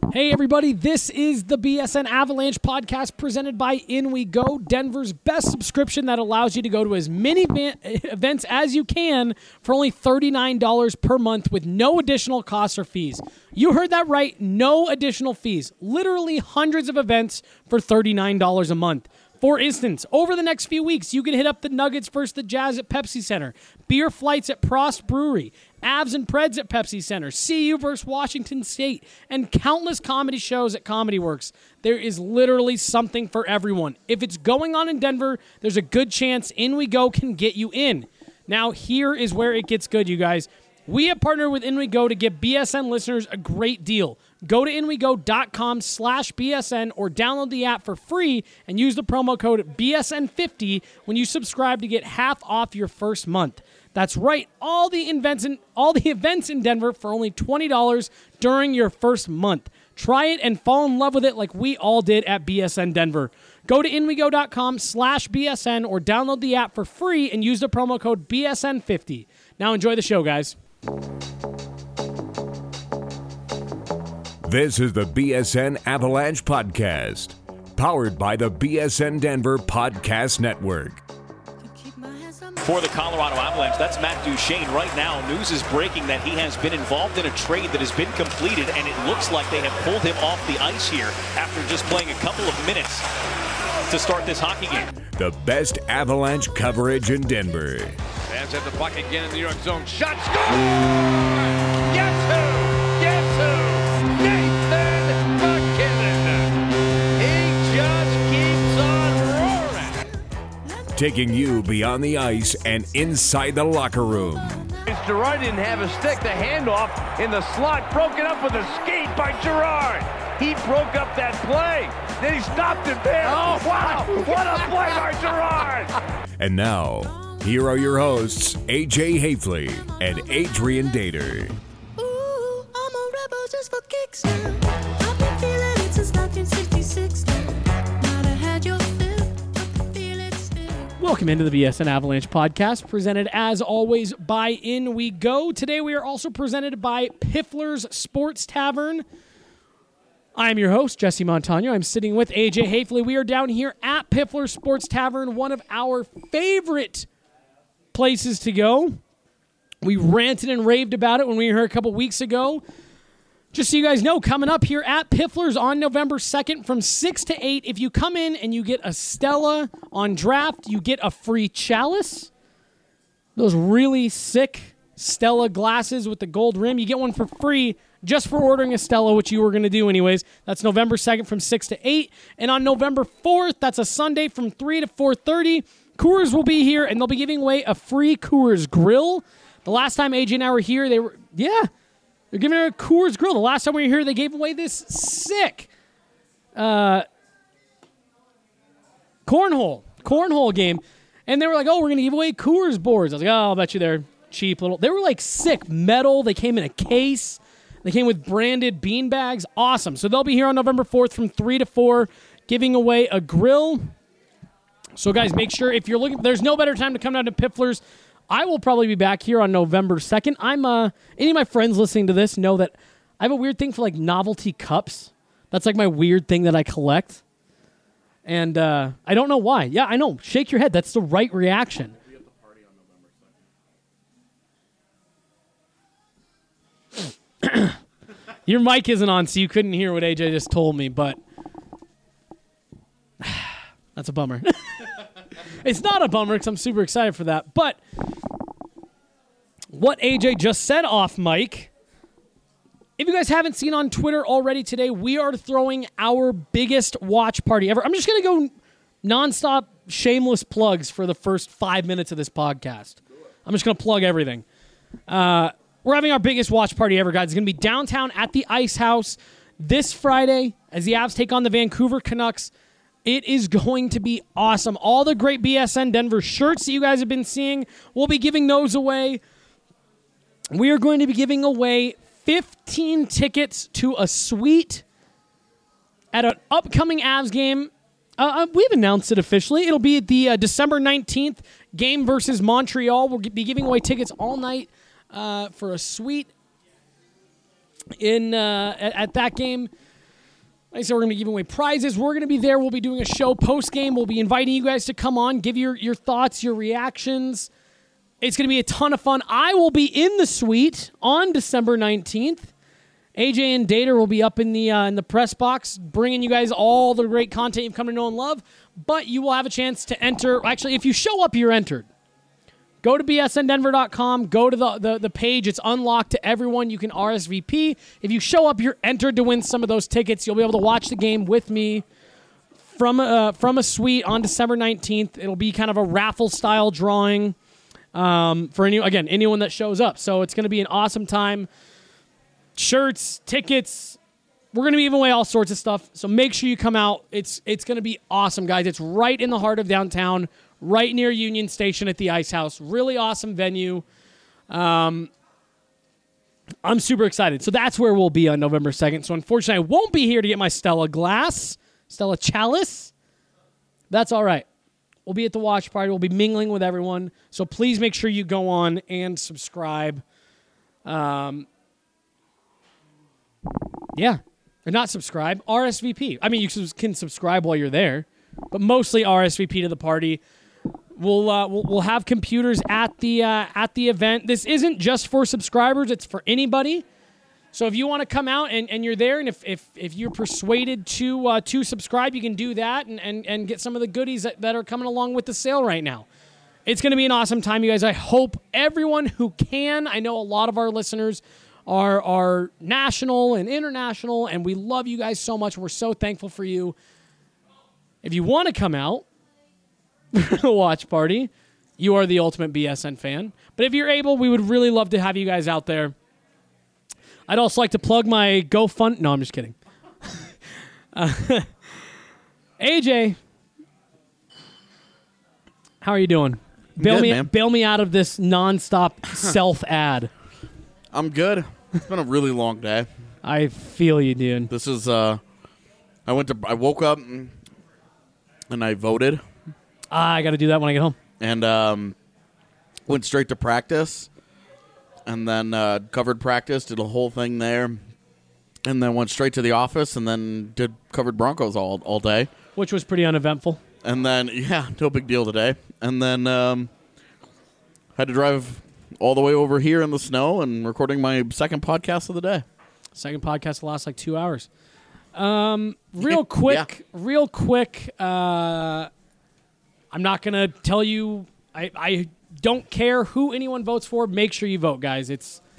Hey everybody, this is the BSN Avalanche podcast presented by In We Go, Denver's best subscription that allows you to go to as many events as you can for only $39 per month with no additional costs or fees. You heard that right, no additional fees. Literally hundreds of events for $39 a month. For instance, over the next few weeks, you can hit up the Nuggets versus the Jazz at Pepsi Center, beer flights at Prost Brewery, Avs and Preds at Pepsi Center, CU versus Washington State, and countless comedy shows at Comedy Works. There is literally something for everyone. If it's going on in Denver, there's a good chance In We Go can get you in. Now, here is where it gets good, you guys. We have partnered with In We Go to give BSN listeners a great deal. Go to inwego.com/BSN or download the app for free and use the promo code BSN50 when you subscribe to get half off your first month. That's right, all the events in Denver for only $20 during your first month. Try it and fall in love with it like we all did at BSN Denver. Go to inwego.com/BSN or download the app for free and use the promo code BSN50. Now enjoy the show, guys. This is the BSN Avalanche Podcast, powered by the BSN Denver Podcast Network. For the Colorado Avalanche, that's Matt Duchene. Right now, news is breaking that he has been involved in a trade that has been completed, and it looks like they have pulled him off the ice here after just playing a couple of minutes to start this hockey game. The best Avalanche coverage in Denver. Fans at the puck again in the New York zone. Shot, score! Yes, who? Yes, who? Nathan MacKinnon. He just keeps on roaring. Taking you beyond the ice and inside the locker room. Girard didn't have a stick. The handoff in the slot, broken up with a skate by Girard. He broke up that play. Then he stopped it there. Oh, wow. What a play by Girard. And now, here are your hosts, AJ Hafley and Adrian Dater. Ooh, I'm a rebel just for kicks now. I've been feeling it since 1966 now. Might have had your fill, but feel it still. Welcome into the BSN Avalanche podcast, presented as always by In We Go. Today we are also presented by Piffler's Sports Tavern. I'm your host, Jesse Montano. I'm sitting with AJ Hafley. We are down here at Piffler's Sports Tavern, one of our favorite places to go. We ranted and raved about it when we were here a couple weeks ago. Just so you guys know, coming up here at Piffler's on November 2nd from 6 to 8, if you come in and you get a Stella on draft, you get a free chalice. Those really sick Stella glasses with the gold rim. You get one for free just for ordering a Stella, which you were going to do anyways. That's November 2nd from 6 to 8. And on November 4th, that's a Sunday from 3 to 4:30, Coors will be here, and they'll be giving away a free Coors grill. The last time AJ and I were here, they're giving away a Coors grill. The last time we were here, they gave away this sick cornhole game. And they were like, oh, we're going to give away Coors boards. I was like, oh, I'll bet you they're cheap little. They were like sick metal. They came in a case. They came with branded bean bags. Awesome. So they'll be here on November 4th from 3 to 4 giving away a grill. So, guys, make sure if you're looking, there's no better time to come down to Piffler's. I will probably be back here on November 2nd. Any of my friends listening to this know that I have a weird thing for, like, novelty cups. That's, like, my weird thing that I collect. And I don't know why. Yeah, I know. Shake your head. That's the right reaction. Your mic isn't on, so you couldn't hear what AJ just told me, but that's a bummer. It's not a bummer because I'm super excited for that. But what AJ just said off mic, if you guys haven't seen on Twitter already today, we are throwing our biggest watch party ever. I'm just going to go nonstop shameless plugs for the first 5 minutes of this podcast. I'm just going to plug everything. We're having our biggest watch party ever, guys. It's going to be downtown at the Ice House this Friday as the Avs take on the Vancouver Canucks. It is going to be awesome. All the great BSN Denver shirts that you guys have been seeing, we'll be giving those away. We are going to be giving away 15 tickets to a suite at an upcoming Avs game. We've announced it officially. It'll be the December 19th game versus Montreal. We'll be giving away tickets all night for a suite at that game. Like I said, we're going to be giving away prizes. We're going to be there. We'll be doing a show post-game. We'll be inviting you guys to come on, give your thoughts, your reactions. It's going to be a ton of fun. I will be in the suite on December 19th. AJ and Dater will be up in the press box, bringing you guys all the great content you've come to know and love. But you will have a chance to enter. Actually, if you show up, you're entered. Go to bsndenver.com. Go to the page. It's unlocked to everyone. You can RSVP. If you show up, you're entered to win some of those tickets. You'll be able to watch the game with me from a suite on December 19th. It'll be kind of a raffle-style drawing for anyone that shows up. So it's going to be an awesome time. Shirts, tickets. We're going to be giving away all sorts of stuff. So make sure you come out. It's going to be awesome, guys. It's right in the heart of downtown, right near Union Station at the Ice House. Really awesome venue. I'm super excited. So that's where we'll be on November 2nd. So unfortunately, I won't be here to get my Stella Chalice. That's all right. We'll be at the watch party. We'll be mingling with everyone. So please make sure you go on and subscribe. Yeah. Or not subscribe. RSVP. I mean, you can subscribe while you're there, but mostly RSVP to the party. We'll have computers at the event. This isn't just for subscribers; it's for anybody. So if you want to come out and you're there, and if you're persuaded to subscribe, you can do that and get some of the goodies that are coming along with the sale right now. It's going to be an awesome time, you guys. I hope everyone who can. I know a lot of our listeners are national and international, and we love you guys so much. We're so thankful for you. If you want to come out for the watch party, you are the ultimate BSN fan. But if you're able, we would really love to have you guys out there. I'd also like to plug my GoFund. No, I'm just kidding. AJ, how are you doing? Bail me out of this nonstop self-ad. I'm good. It's been a really long day. I feel you, dude. This is I woke up and I voted. I got to do that when I get home. And went straight to practice. And then covered practice, did a whole thing there. And then went straight to the office and then covered Broncos all day. Which was pretty uneventful. And then, no big deal today. And then had to drive all the way over here in the snow and recording my second podcast of the day. Second podcast will last like 2 hours. Real quick. I'm not going to tell you. I don't care who anyone votes for. Make sure you vote, guys.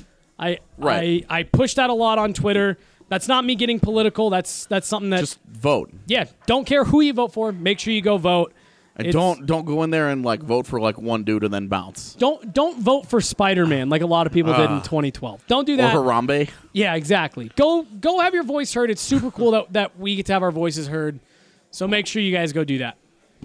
I push that a lot on Twitter. That's not me getting political. That's something that just vote. Yeah, don't care who you vote for. Make sure you go vote. And don't go in there and vote for one dude and then bounce. Don't vote for Spider-Man like a lot of people did in 2012. Don't do that. Or Harambe. Yeah, exactly. Go have your voice heard. It's super cool that we get to have our voices heard. So make sure you guys go do that.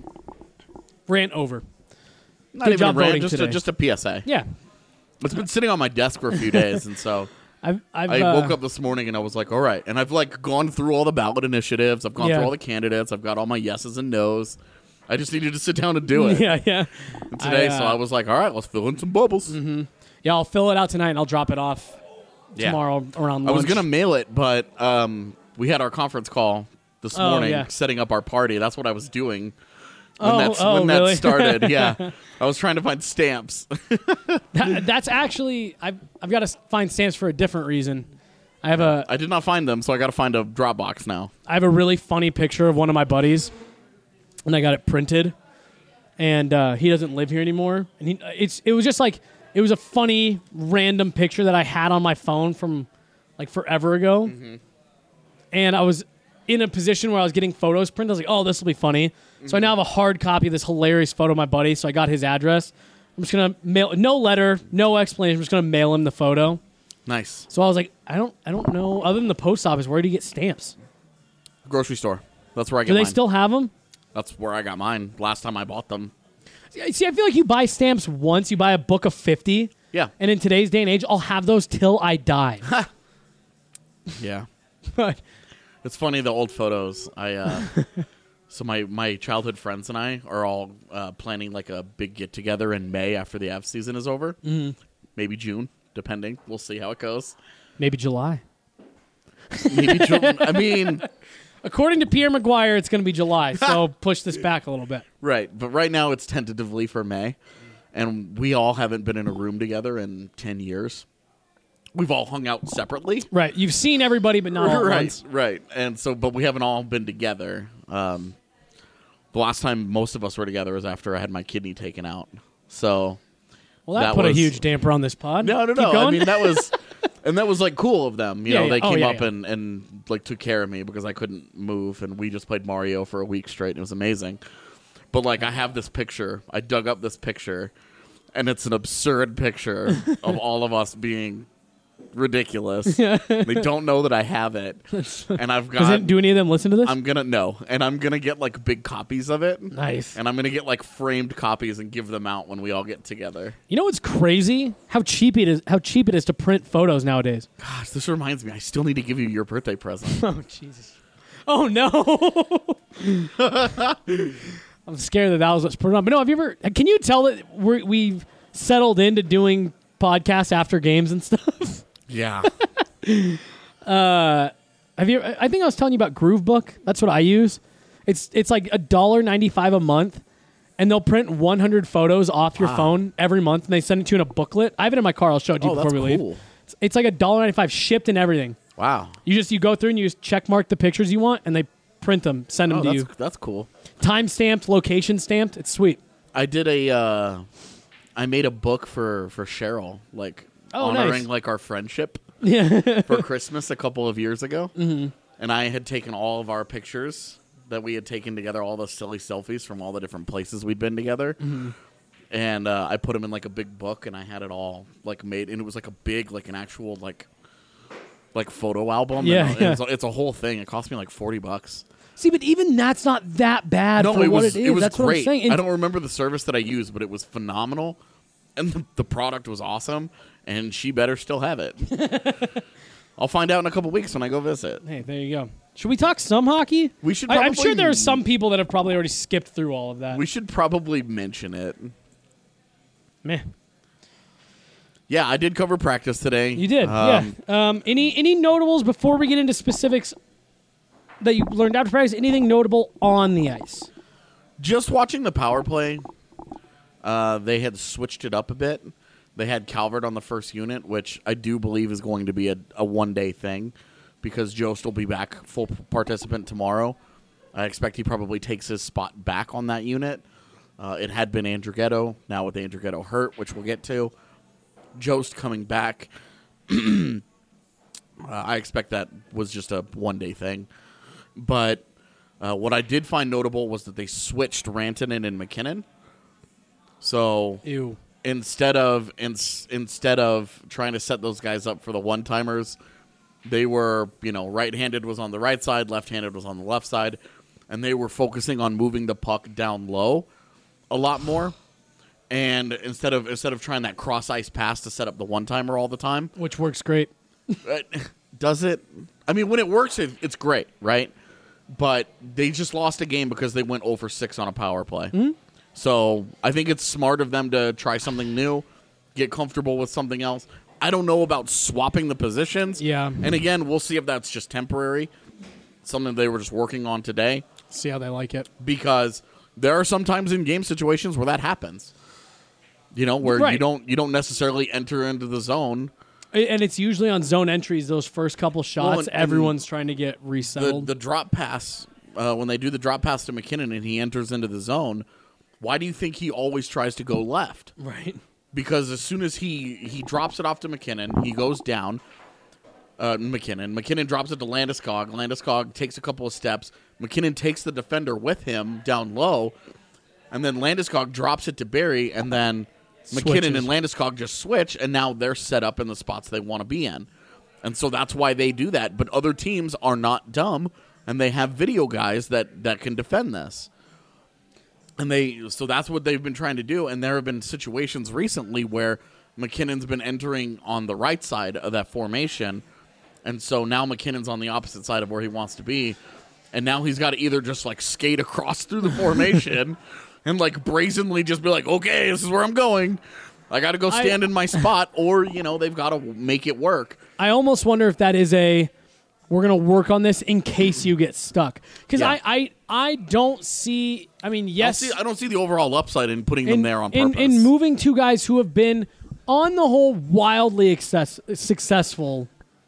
Rant over. Not Good even job a rant, voting today. just a PSA. Yeah. It's been sitting on my desk for a few days, and so I woke up this morning and I was like, all right. And I've gone through all the ballot initiatives. I've gone through all the candidates. I've got all my yeses and nos. I just needed to sit down and do it. Yeah. Today, so I was like, all right, let's fill in some bubbles. Mm-hmm. Yeah, I'll fill it out tonight and I'll drop it off tomorrow around lunch. I was going to mail it, but we had our conference call this morning setting up our party. That's what I was doing when that started. Yeah. I was trying to find stamps. That's actually, I've got to find stamps for a different reason. I did not find them, so I got to find a Dropbox now. I have a really funny picture of one of my buddies, and I got it printed, and he doesn't live here anymore. And it was just it was a funny random picture that I had on my phone from forever ago, and I was in a position where I was getting photos printed. I was like, oh, this will be funny. So I now have a hard copy of this hilarious photo of my buddy. So I got his address. I'm just gonna mail, no letter, no explanation. I'm just gonna mail him the photo. Nice. So I was like, I don't know. Other than the post office, where do you get stamps? Grocery store. That's where I get mine. Do they still have them? That's where I got mine last time I bought them. See, I feel like you buy stamps once. You buy a book of 50. Yeah. And in today's day and age, I'll have those till I die. Yeah. But it's funny, the old photos. So my childhood friends and I are all planning a big get-together in May after the Avs season is over. Mm-hmm. Maybe June, depending. We'll see how it goes. Maybe July. Maybe June. I mean, According to Pierre McGuire, it's going to be July, so push this back a little bit. Right, but right now it's tentatively for May, and we all haven't been in a room together in 10 years. We've all hung out separately. Right, you've seen everybody, but not all at once. Right, and so, but we haven't all been together. The last time most of us were together was after I had my kidney taken out. So, well, that put a huge damper on this pod. No. Keep going. I mean, that was, and that was like cool of them. You know, they came up yeah. and like took care of me because I couldn't move, and we just played Mario for a week straight, and it was amazing. But like, I have this picture. I dug up this picture, and it's an absurd picture of all of us being ridiculous. They don't know that I have it, and I've got. Do any of them listen to this? I'm gonna get like big copies of it. Nice. And I'm gonna get like framed copies and give them out when we all get together. You know what's crazy? How cheap it is. How cheap it is to print photos nowadays. Gosh, this reminds me. I still need to give you your birthday present. Oh Jesus. Oh no. I'm scared that was what's put on. But no, have you ever? Can you tell that we've settled into doing podcasts after games and stuff? Yeah. Have you? I think I was telling you about Groovebook. That's what I use. It's like $1.95 a month, and they'll print 100 photos off your phone every month, and they send it to you in a booklet. I have it in my car. I'll show it to you before we cool. leave. It's like $1.95 shipped and everything. Wow. You go through and you just check mark the pictures you want, and they print them, send them to you. That's cool. Time stamped, location stamped. It's sweet. I did I made a book for Cheryl, like honoring nice. like our friendship Yeah. for Christmas a couple of years ago. Mm-hmm. And I had taken all of our pictures that we had taken together, all the silly selfies from all the different places we'd been together. Mm-hmm. And I put them in like a big book, and I had it all like made, and it was like a big, like an actual like photo album. Yeah, and it's a whole thing. It cost me like $40. See, but even that's not that bad for what it is. It was that's great. what I'm saying. I don't remember the service that I used, but it was phenomenal, and the product was awesome. And she better still have it. I'll find out in a couple weeks when I go visit. Hey, there you go. Should we talk some hockey? We should. I'm sure there are some people that have probably already skipped through all of that. We should probably mention it. Meh. Yeah, I did cover practice today. You did, yeah. Any notables before we get into specifics that you learned after practice? Anything notable on the ice? Just watching the power play, they had switched it up a bit. They had Calvert on the first unit, which I do believe is going to be a one-day thing because Jost will be back full participant tomorrow. I expect he probably takes his spot back on that unit. It had been Andrighetto. Now with Andrighetto hurt, which we'll get to, Jost coming back, I expect that was just a one-day thing. But what I did find notable was that they switched Rantanen and McKinnon. So Ew. Instead of trying to set those guys up for the one-timers, they were, right-handed was on the right side, left-handed was on the left side, and they were focusing on moving the puck down low a lot more. And instead of trying that cross-ice pass to set up the one-timer all the time. Which works great. Does it? I mean, when it works, it's great, right? But they just lost a game because they went 0 for 6 on a power play. Mm-hmm. So I think it's smart of them to try something new, get comfortable with something else. I don't know about swapping the positions. Yeah. And again, we'll see if that's just temporary, something they were just working on today. See how they like it. Because there are some times in game situations where that happens. Where right. you don't necessarily enter into the zone. And it's usually on zone entries, those first couple shots, everyone's trying to get resettled. The drop pass, when they do the drop pass to McKinnon and he enters into the zone, why do you think he always tries to go left? Right. Because as soon as he drops it off to McKinnon, he goes down. McKinnon drops it to Landeskog. Landeskog takes a couple of steps. McKinnon takes the defender with him down low, and then Landeskog drops it to Barrie, and then McKinnon and Landeskog just switch, and now they're set up in the spots they want to be in. And so that's why they do that. But other teams are not dumb, and they have video guys that can defend this. And so that's what they've been trying to do. And there have been situations recently where McKinnon's been entering on the right side of that formation. And so now McKinnon's on the opposite side of where he wants to be. And now he's got to either just like skate across through the formation and like brazenly just be like, okay, this is where I'm going. I got to go stand in my spot, or, they've got to make it work. I almost wonder if that is we're we're going to work on this in case you get stuck. Because Yeah. I don't see, I mean, yes. I don't see the overall upside in putting them there on purpose. In moving two guys who have been, on the whole, wildly successful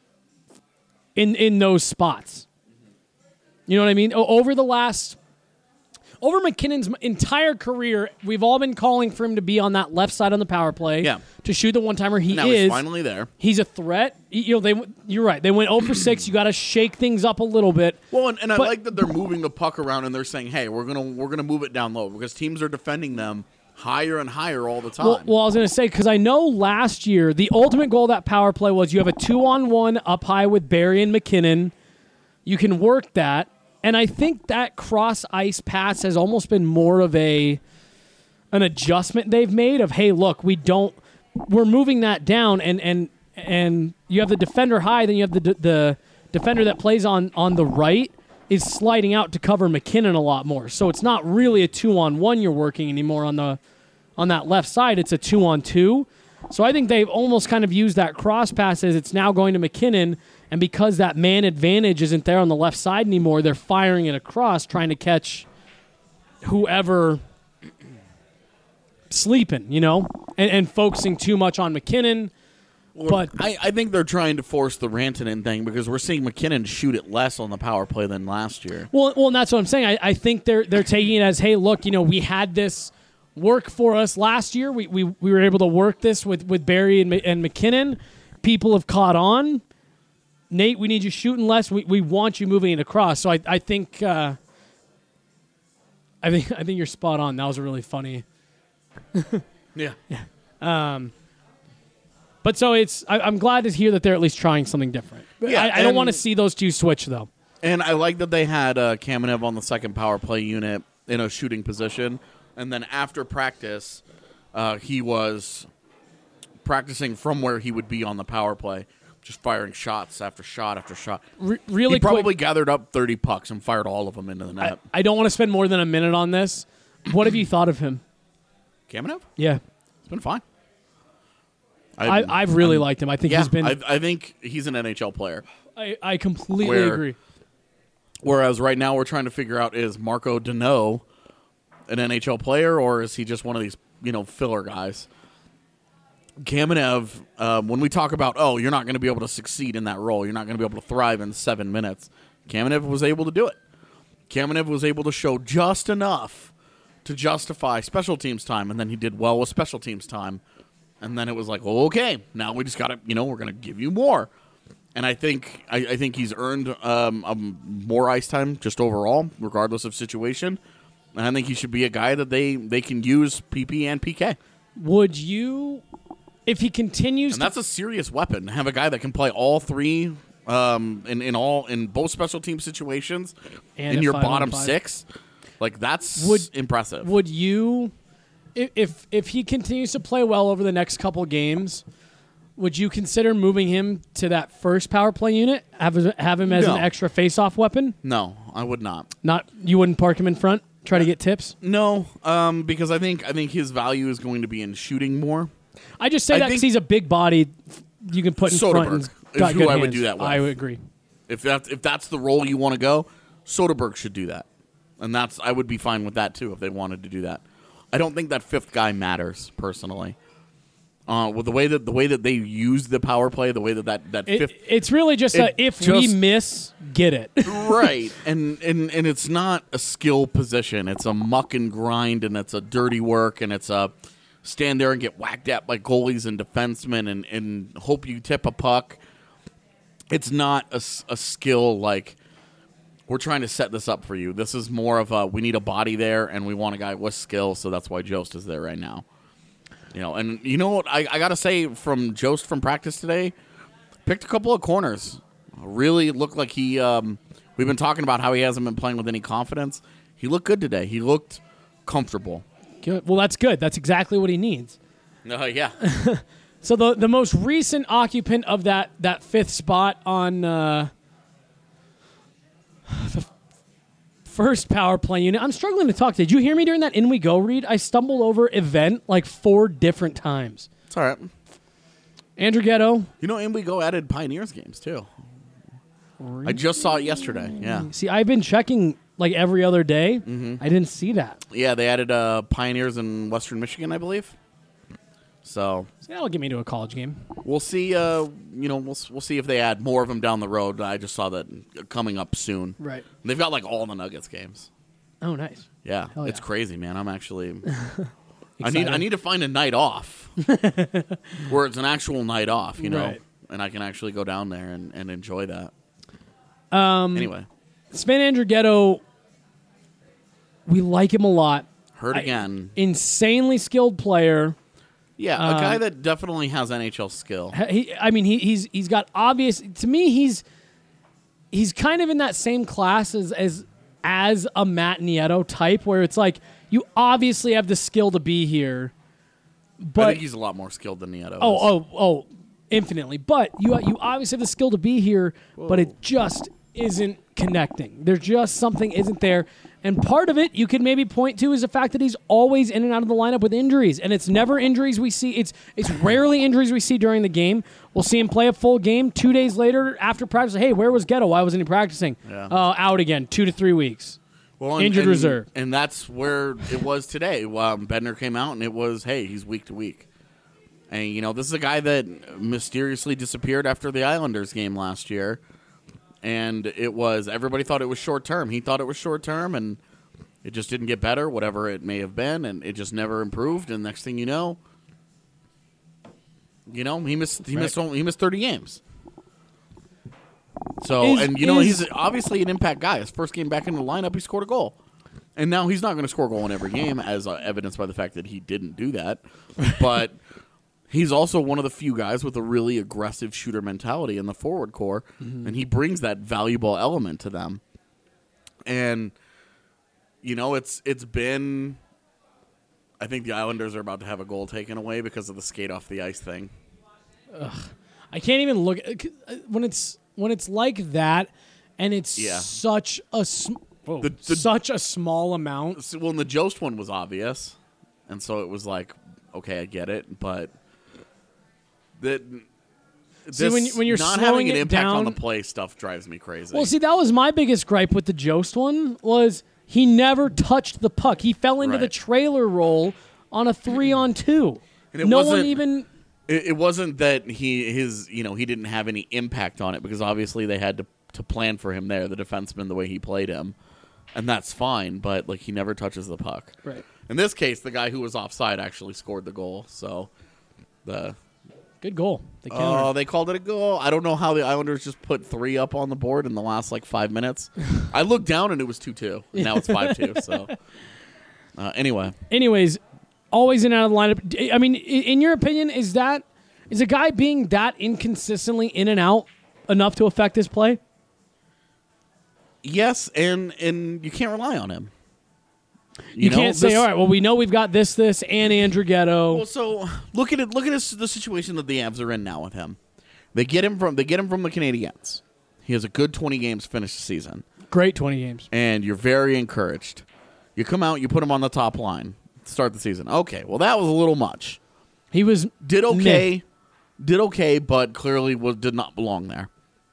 in those spots. You know what I mean? Over McKinnon's entire career, we've all been calling for him to be on that left side on the power play. Yeah. To shoot the one-timer. Now he's finally there. He's a threat. You're right. They went 0 for 6. You got to shake things up a little bit. Well, and I like that they're moving the puck around and they're saying, "Hey, we're gonna move it down low," because teams are defending them higher and higher all the time. Well, I was going to say, because I know last year the ultimate goal of that power play was you have a 2-on-1 up high with Barrie and McKinnon. You can work that. And I think that cross-ice pass has almost been more of an adjustment they've made of, hey, look, we're moving that down, and you have the defender high, then you have the defender that plays on the right is sliding out to cover McKinnon a lot more. So it's not really a 2-on-1 you're working anymore on that left side. It's a 2-on-2. So I think they've almost kind of used that cross pass as it's now going to McKinnon, and because that man advantage isn't there on the left side anymore, they're firing it across, trying to catch whoever sleeping, and focusing too much on McKinnon. But I think they're trying to force the Rantanen thing because we're seeing McKinnon shoot it less on the power play than last year. Well, and that's what I'm saying. I think they're taking it as, hey, look, we had this work for us last year. We were able to work this with Barrie and McKinnon. People have caught on. Nate, we need you shooting less. We want you moving it across. So I think you're spot on. That was a really funny. Yeah. But so I'm glad to hear that they're at least trying something different. Yeah, I don't want to see those two switch though. And I like that they had Kamenev on the second power play unit in a shooting position, and then after practice, he was practicing from where he would be on the power play. Just firing shots after shot after shot. Really he probably quick, gathered up 30 pucks and fired all of them into the net. I don't want to spend more than a minute on this. What have you thought of him? Kamenev? Yeah. It's been fine. I've really liked him. I think he's been... I think he's an NHL player. I completely agree. Whereas right now we're trying to figure out, is Marco Deneau an NHL player or is he just one of these filler guys? Kamenev, when we talk about, you're not going to be able to succeed in that role, you're not going to be able to thrive in 7 minutes, Kamenev was able to do it. Kamenev was able to show just enough to justify special teams time, and then he did well with special teams time. And then it was like, okay, now we just got to, we're going to give you more. And I think he's earned more ice time just overall, regardless of situation. And I think he should be a guy that they can use PP and PK. Would you... If he continues, and that's a serious weapon. Have a guy that can play all three in both special team situations and in your bottom 6, like that's impressive. Would you, if he continues to play well over the next couple games, would you consider moving him to that first power play unit? Have him as an extra face-off weapon? No, I would not. You wouldn't park him in front? Try to get tips? No, because I think his value is going to be in shooting more. I just say that because he's a big body you can put in Soderberg front. And is got who good I would hands. do that with. I would agree. If that's the role you want to go, Soderberg should do that, and I would be fine with that too if they wanted to do that. I don't think that fifth guy matters personally. With the way that they use the power play, the way that fifth, it's really just we miss, get it right, and it's not a skill position. It's a muck and grind, and it's a dirty work, and it's a stand there and get whacked at by goalies and defensemen and hope you tip a puck. It's not a skill like we're trying to set this up for you. This is more of we need a body there and we want a guy with skill, so that's why Jost is there right now. And you know what I got to say from Jost from practice today, picked a couple of corners. Really looked like he we've been talking about how he hasn't been playing with any confidence. He looked good today. He looked comfortable. Good. Well, that's good. That's exactly what he needs. Yeah. So the most recent occupant of that fifth spot on the first power play unit. I'm struggling to talk. Did you hear me during that In We Go read? I stumbled over event like 4 different times. It's all right. Andrew Ghetto. In We Go added Pioneers games too. I just saw it yesterday. Yeah. See, I've been checking like every other day. Mm-hmm. I didn't see that. Yeah, they added Pioneers in Western Michigan, I believe. So That'll get me to a college game. we'll see. We'll see if they add more of them down the road. I just saw that coming up soon. Right. They've got like all the Nuggets games. Oh, nice. Yeah, Hell it's yeah. crazy, man. I'm actually. I Excited. need to find a night off where it's an actual night off, Right. and I can actually go down there and enjoy that. Anyway, Sven Andrighetto, we like him a lot. hurt again. Insanely skilled player. Yeah, a guy that definitely has NHL skill. He's got obvious. To me, he's kind of in that same class as a Matt Nieto type, where it's like you obviously have the skill to be here, I but think he's a lot more skilled than Nieto. oh, infinitely. But you obviously have the skill to be here, but it just isn't connecting. There's just something isn't there. And part of it you could maybe point to is the fact that he's always in and out of the lineup with injuries. And it's never injuries we see. It's rarely injuries we see during the game. We'll see him play a full game 2 days later after practice. Hey, where was Ghetto? Why wasn't he practicing? Yeah. Out again, 2 to 3 weeks. Well, Injured reserve. And that's where it was today. Bednar came out and it was, hey, he's week to week. And, this is a guy that mysteriously disappeared after the Islanders game last year. And everybody thought it was short term. He thought it was short term, and it just didn't get better, whatever it may have been, and it just never improved. And next thing you know, he missed 30 games. So, he's obviously an impact guy. His first game back in the lineup, he scored a goal. And now he's not going to score a goal in every game, as evidenced by the fact that he didn't do that. But he's also one of the few guys with a really aggressive shooter mentality in the forward core, and he brings that valuable element to them. And, it's been... I think the Islanders are about to have a goal taken away because of the skate off the ice thing. I can't even look... When it's like that, and it's such a... such a small amount. Well, and the Jost one was obvious, and so it was like, okay, I get it, but when you're not slowing having an it impact down, on the play stuff drives me crazy. Well, see, that was my biggest gripe with the Jost one was he never touched the puck. He fell into the Right. trailer roll on a 3-on-2. And it no wasn't- one even... It wasn't that he didn't have any impact on it, because obviously they had to plan for him there, the defenseman, the way he played him. And that's fine, but he never touches the puck. Right. In this case, the guy who was offside actually scored the goal. So Good goal. The counter. they called it a goal. I don't know how the Islanders just put 3 up on the board in the last 5 minutes. I looked down and it was 2-2. And now it's 5-2. So anyway. Anyways, always in and out of the lineup. I mean, in your opinion, is a guy being that inconsistently in and out enough to affect his play? Yes, and you can't rely on him. You can't say, all right, well, we know we've got this, and Andrighetto. Well, so look at the situation that the Avs are in now with him. They get him from the Canadiens. He has a good 20 games finished the season. Great 20 games. And you're very encouraged. You come out, you put him on the top line to start the season. Okay, well, that was a little much. He was Did okay, but clearly did not belong there.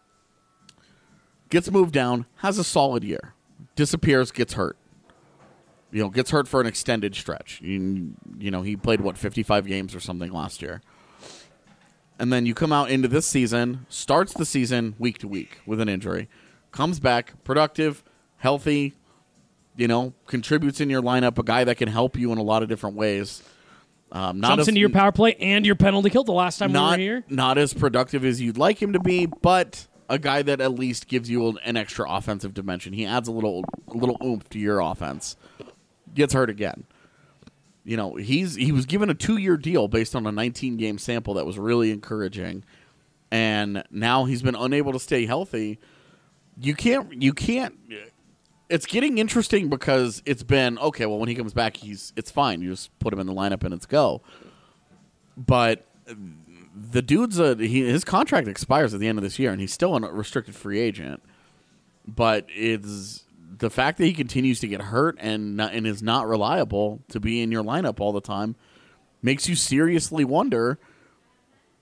Gets moved down, has a solid year. Disappears, gets hurt. Gets hurt for an extended stretch. He played, 55 games or something last year. And then you come out into this season, starts the season week to week with an injury. Comes back, productive, healthy, contributes in your lineup, a guy that can help you in a lot of different ways. jumps into your power play and your penalty kill the last time we were here. Not as productive as you'd like him to be, but a guy that at least gives you an extra offensive dimension. He adds a little oomph to your offense. Gets hurt again. He was given a 2-year deal based on a 19-game sample that was really encouraging, and now he's been unable to stay healthy. You can't. It's getting interesting because it's been okay. Well, when he comes back, it's fine. You just put him in the lineup and it's go. But the dude's his contract expires at the end of this year, and he's still a restricted free agent. But it's the fact that he continues to get hurt and is not reliable to be in your lineup all the time makes you seriously wonder,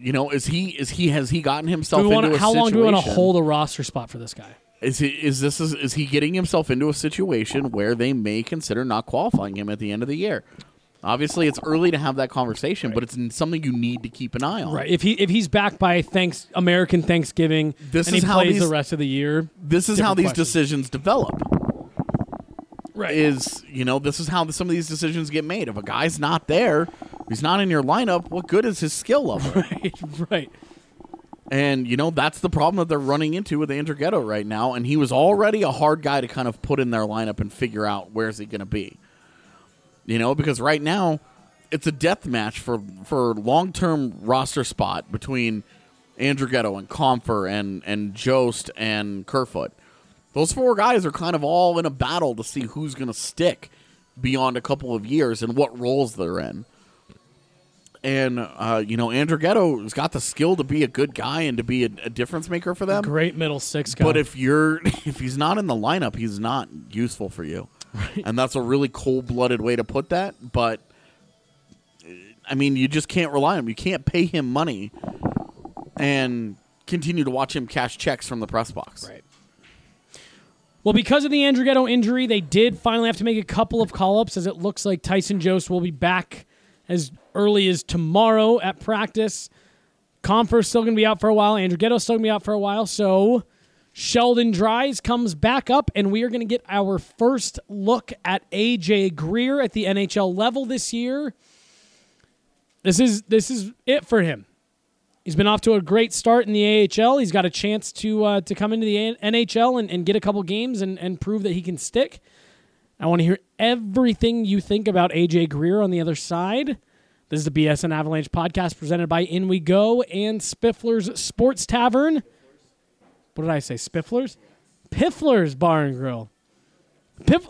has he gotten himself into a situation? How long do we want to hold a roster spot for this guy? Is he getting himself into a situation where they may consider not qualifying him at the end of the year? Obviously, it's early to have that conversation, but it's something you need to keep an eye on. Right. If he's back by American Thanksgiving, and he plays the rest of the year, this is how these decisions develop. Right. This is how some of these decisions get made. If a guy's not there, he's not in your lineup, what good is his skill level? Right. And, that's the problem that they're running into with Andrighetto right now, and he was already a hard guy to kind of put in their lineup and figure out where's he going to be. Because right now it's a death match for long-term roster spot between Andrighetto and Compher and Jost and Kerfoot. Those 4 guys are kind of all in a battle to see who's going to stick beyond a couple of years and what roles they're in. And, Andrighetto has got the skill to be a good guy and to be a difference maker for them. Great middle 6 guy. But if he's not in the lineup, he's not useful for you. Right. And that's a really cold-blooded way to put that. But, you just can't rely on him. You can't pay him money and continue to watch him cash checks from the press box. Right. Well, because of the Andrighetto injury, they did finally have to make a couple of call-ups, as it looks like Tyson Jost will be back as early as tomorrow at practice. Compher's still going to be out for a while. Andrighetto's still going to be out for a while. So Sheldon Dries comes back up, and we are going to get our first look at AJ Greer at the NHL level this year. This is it for him. He's been off to a great start in the AHL. He's got a chance to come into the NHL and get a couple games and prove that he can stick. I want to hear everything you think about AJ Greer on the other side. This is the BSN Avalanche podcast presented by In We Go and Spiffler's Sports Tavern. What did I say? Spiffler's? Piffler's Bar and Grill. Piffler's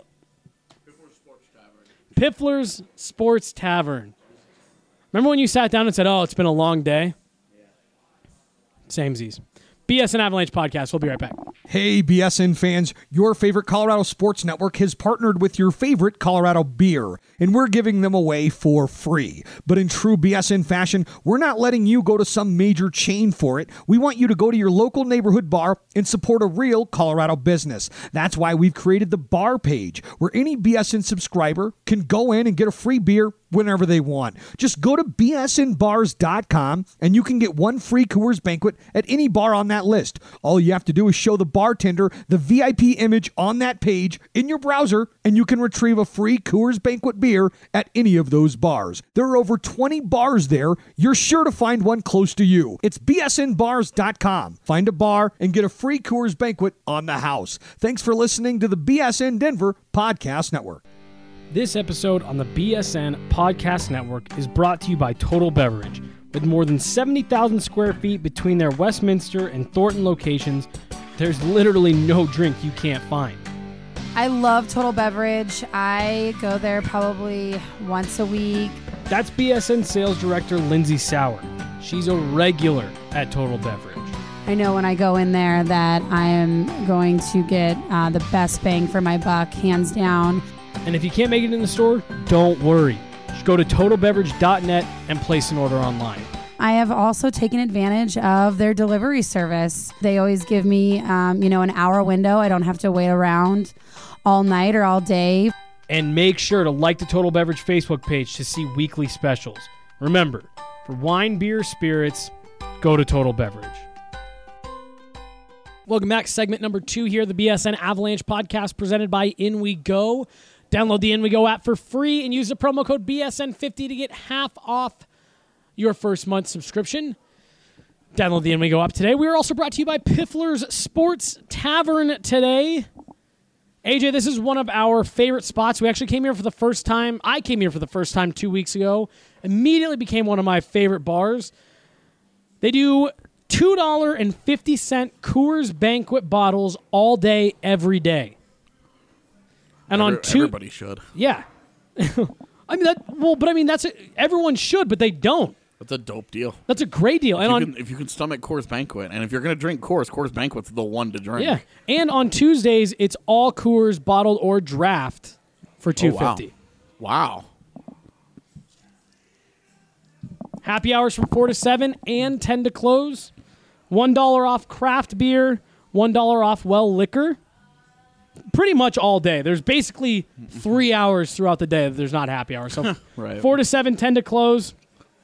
Sports Tavern. Piffler's Sports Tavern. Remember when you sat down and said, "Oh, it's been a long day"? Yeah. Samesies. BSN Avalanche podcast. We'll be right back. Hey, BSN fans, your favorite Colorado Sports Network has partnered with your favorite Colorado beer, and we're giving them away for free. But in true BSN fashion, we're not letting you go to some major chain for it. We want you to go to your local neighborhood bar and support a real Colorado business. That's why we've created the bar page, where any BSN subscriber can go in and get a free beer whenever they want. Just go to bsnbars.com and you can get 1 free Coors Banquet at any bar on that list. All you have to do is show the bartender the VIP image on that page in your browser, and you can retrieve a free Coors Banquet beer at any of those bars. There are over 20 bars there. You're sure to find one close to you. It's bsnbars.com. Find a bar and get a free Coors Banquet on the house. Thanks for listening to the BSN Denver Podcast Network. This episode on the BSN Podcast Network is brought to you by Total Beverage. With more than 70,000 square feet between their Westminster and Thornton locations, there's literally no drink you can't find. I love Total Beverage. I go there probably once a week. That's BSN Sales Director Lindsay Sauer. She's a regular at Total Beverage. I know when I go in there that I am going to get the best bang for my buck, hands down. And if you can't make it in the store, don't worry. Just go to totalbeverage.net and place an order online. I have also taken advantage of their delivery service. They always give me, an hour window. I don't have to wait around all night or all day. And make sure to like the Total Beverage Facebook page to see weekly specials. Remember, for wine, beer, spirits, go to Total Beverage. Welcome back. Segment number 2 here, the BSN Avalanche podcast presented by In We Go. Download the In We Go app for free and use the promo code BSN50 to get half off your first month subscription. Download the In We Go app today. We are also brought to you by Piffler's Sports Tavern today. AJ, this is one of our favorite spots. We actually came here for the first time. I came here for the first time 2 weeks ago. Immediately became one of my favorite bars. They do $2.50 Coors Banquet bottles all day, every day. And everybody should. Yeah. That's everyone should, but they don't. That's a dope deal. That's a great deal. If you can stomach Coors Banquet, and if you're going to drink Coors Banquet's the one to drink. Yeah. And on Tuesdays, it's all Coors bottled or draft for $2.50. Wow. Happy hours from 4 to 7 and 10 to close. $1 off craft beer, $1 off well liquor. Pretty much all day. There's basically 3 hours throughout the day that there's not happy hour. So Right. 4 to 7, 10 to close.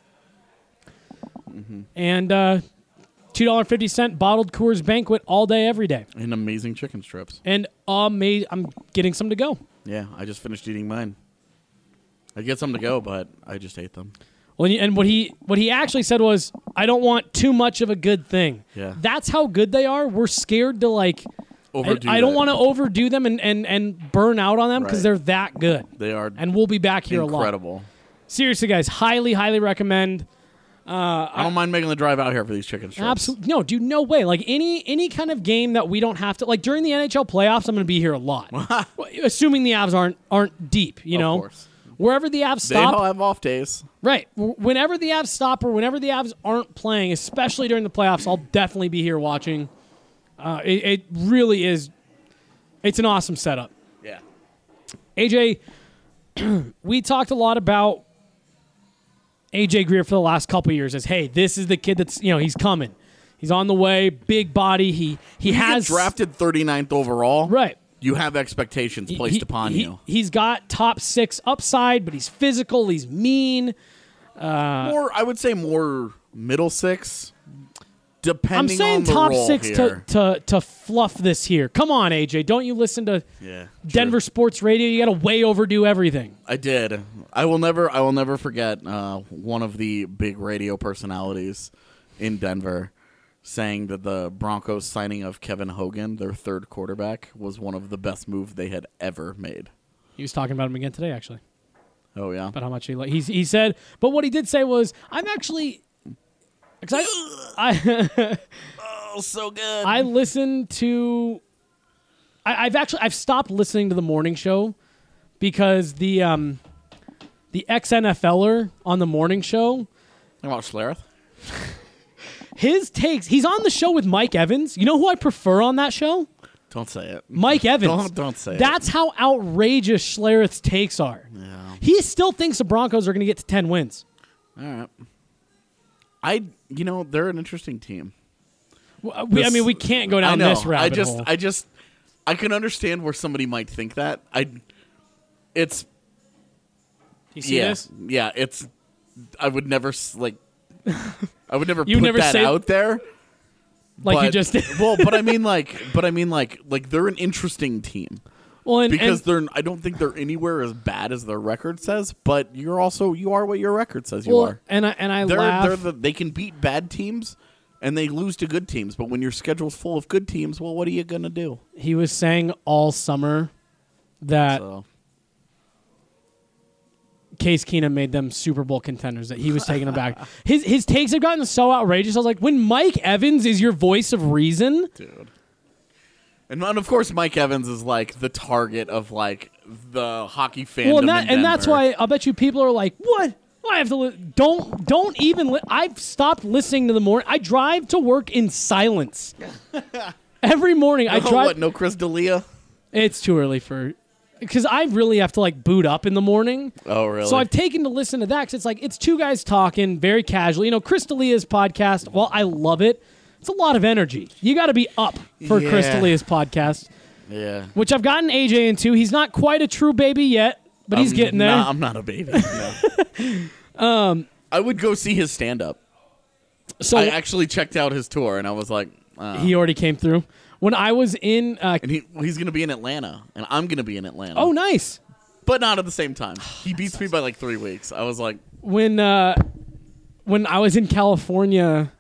And $2.50 bottled Coors Banquet all day, every day. And amazing chicken strips. And I'm getting some to go. Yeah, I just finished eating mine. I get some to go, but I just ate them. Well, and what he actually said was, I don't want too much of a good thing. Yeah. That's how good they are. We're scared to Overdo I don't it. want to overdo them and burn out on them because Right. they're that good. They are And we'll be back here a lot. incredible. Seriously, guys, highly, highly recommend. I don't mind making the drive out here for these chicken strips. Absolutely, no, dude, no way. Like any kind of game that we don't have to like during the NHL playoffs, I'm going to be here a lot. Assuming the Avs aren't deep, you know. Of course. Wherever the Avs They stop, all have off days. right? Whenever the Avs stop or whenever the Avs aren't playing, especially during the playoffs, I'll definitely be here watching. It really is. It's an awesome setup. Yeah. AJ, we talked a lot about AJ Greer for the last couple of years as, hey, this is the kid that's, he's coming. He's on the way, big body. He has drafted 39th overall. right. You have expectations placed upon you. He's got top 6 upside, but he's physical, he's mean. I would say more middle 6, I'm depending saying on the top role 6 here. to fluff this here. Come on, AJ. Don't you listen to Denver Sports Radio? You got to way overdo everything. I did. I will never forget one of the big radio personalities in Denver saying that the Broncos signing of Kevin Hogan, their third quarterback, was one of the best moves they had ever made. He was talking about him again today, actually. Oh yeah. About how much he said, but what he did say was, I'm actually excited. Oh, so good. I listen to. I've stopped listening to the morning show because the ex NFLer on the morning show. About Schlereth? His takes. He's on the show with Mike Evans. You know who I prefer on that show? Don't say it. Mike Evans. Don't say it. That's how outrageous Schlereth's takes are. Yeah. He still thinks the Broncos are going to get to 10 wins. All right. They're an interesting team. We can't go down this rabbit hole. I can understand where somebody might think that. You see this? Yeah, I would never I would never You put never that say- out there. Like you just did. Well, but I mean they're an interesting team. Well, Because I don't think they're anywhere as bad as their record says, but you are what your record says you are. And I laugh. They can beat bad teams and they lose to good teams, but when your schedule's full of good teams, well, what are you going to do? He was saying all summer that Case Keenum made them Super Bowl contenders, that he was taking them back. His takes have gotten so outrageous. I was like, when Mike Evans is your voice of reason? Dude. And of course, Mike Evans is like the target of like the hockey fandom. Well, in and that's Denver. why I'll bet you people are like, what? I have to don't even. I've stopped listening to the morning. I drive to work in silence every morning. I drive. What? No Chris D'Elia? It's too early because I really have to like boot up in the morning. Oh, really? So I've taken to listen to that because it's like it's two guys talking very casually. Chris D'Elia's podcast. Well, I love it. It's a lot of energy. You got to be up for Chris D'Elia's podcast. Yeah. Which I've gotten AJ into. He's not quite a true baby yet, but he's getting there. I'm not a baby. No. I would go see his stand-up. So I actually checked out his tour, and I was like, he already came through. When I was in, and he's going to be in Atlanta, and I'm going to be in Atlanta. oh, nice. But not at the same time. He beats me by like 3 weeks. I was like, When I was in California,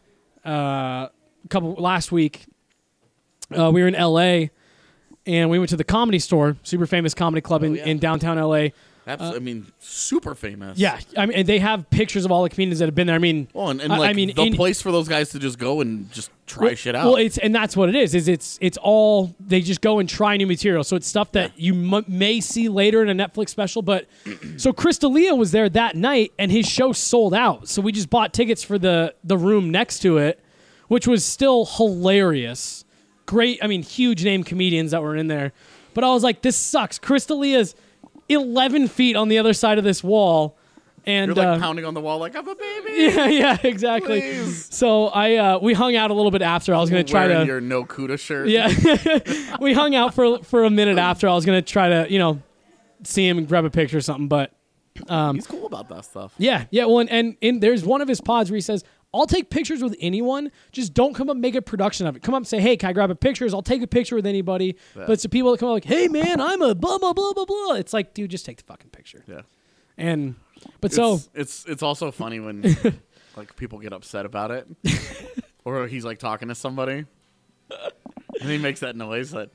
last week, we were in LA, and we went to the Comedy Store, super famous comedy club in downtown LA. super famous. Yeah, and they have pictures of all the comedians that have been there. I mean, Well, the place for those guys to just go and just try shit out. Well, and that's what it is. It's all they just go and try new material. So it's stuff that you may see later in a Netflix special. But so Chris D'Elia was there that night, and his show sold out. So we just bought tickets for the room next to it, which was still hilarious. Great, huge name comedians that were in there. But I was like, this sucks. Chris D'Elia's 11 feet on the other side of this wall, And You're like pounding on the wall like I'm a baby. Yeah, exactly. Please. So we hung out a little bit after. I was going to try Wearing to your no Kuda shirt. Yeah. We hung out for a minute after. I was going to try to, see him and grab a picture or something, but He's cool about that stuff. yeah. Well, and there's one of his pods where he says, I'll take pictures with anyone. Just don't come up and make a production of it. Come up and say, hey, can I grab a picture? I'll take a picture with anybody. Yeah. But it's the people that come up like, hey, man, I'm a blah, blah, blah, blah, blah. It's like, dude, just take the fucking picture. Yeah. It's also funny when like people get upset about it. Or he's like talking to somebody. And he makes that noise that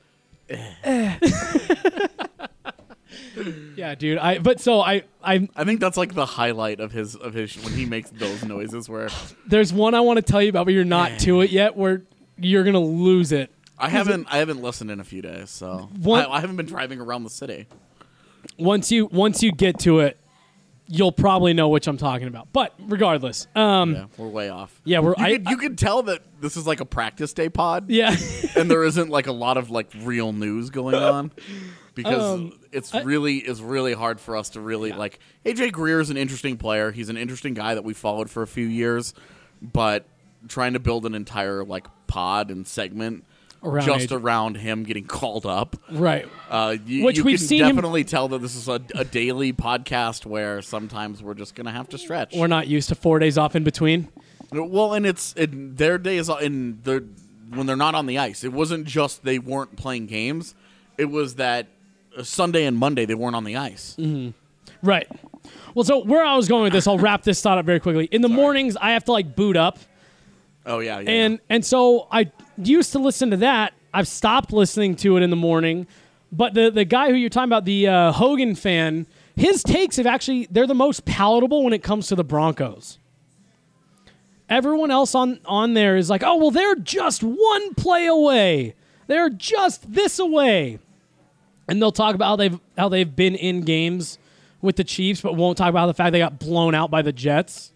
Yeah, dude. I think that's like the highlight of his when he makes those noises where there's one I want to tell you about, but you're not to it yet, where you're gonna lose it. I haven't listened in a few days, so I haven't been driving around the city. Once you get to it, you'll probably know which I'm talking about. But regardless, Yeah, we're way off. Yeah, you could tell that this is like a practice day pod. Yeah. And there isn't like a lot of like real news going on. Because it's really hard for us to really like. AJ Greer is an interesting player. He's an interesting guy that we followed for a few years, but trying to build an entire like pod and segment around him getting called up, right? Which we've seen definitely tell that this is a daily podcast where sometimes we're just gonna have to stretch. We're not used to 4 days off in between. Well, and their days when they're not on the ice. It wasn't just they weren't playing games. It was that Sunday and Monday they weren't on the ice. Mm-hmm. Right. Well, so where I was going with this, I'll wrap this thought up very quickly. In the mornings, I have to like boot up. Oh yeah. And so I used to listen to that. I've stopped listening to it in the morning. But the guy who you're talking about, the Hogan fan, his takes they're the most palatable when it comes to the Broncos. Everyone else on there is like, oh well, they're just one play away. They're just this away. And they'll talk about how they've been in games with the Chiefs, but won't talk about the fact they got blown out by the Jets.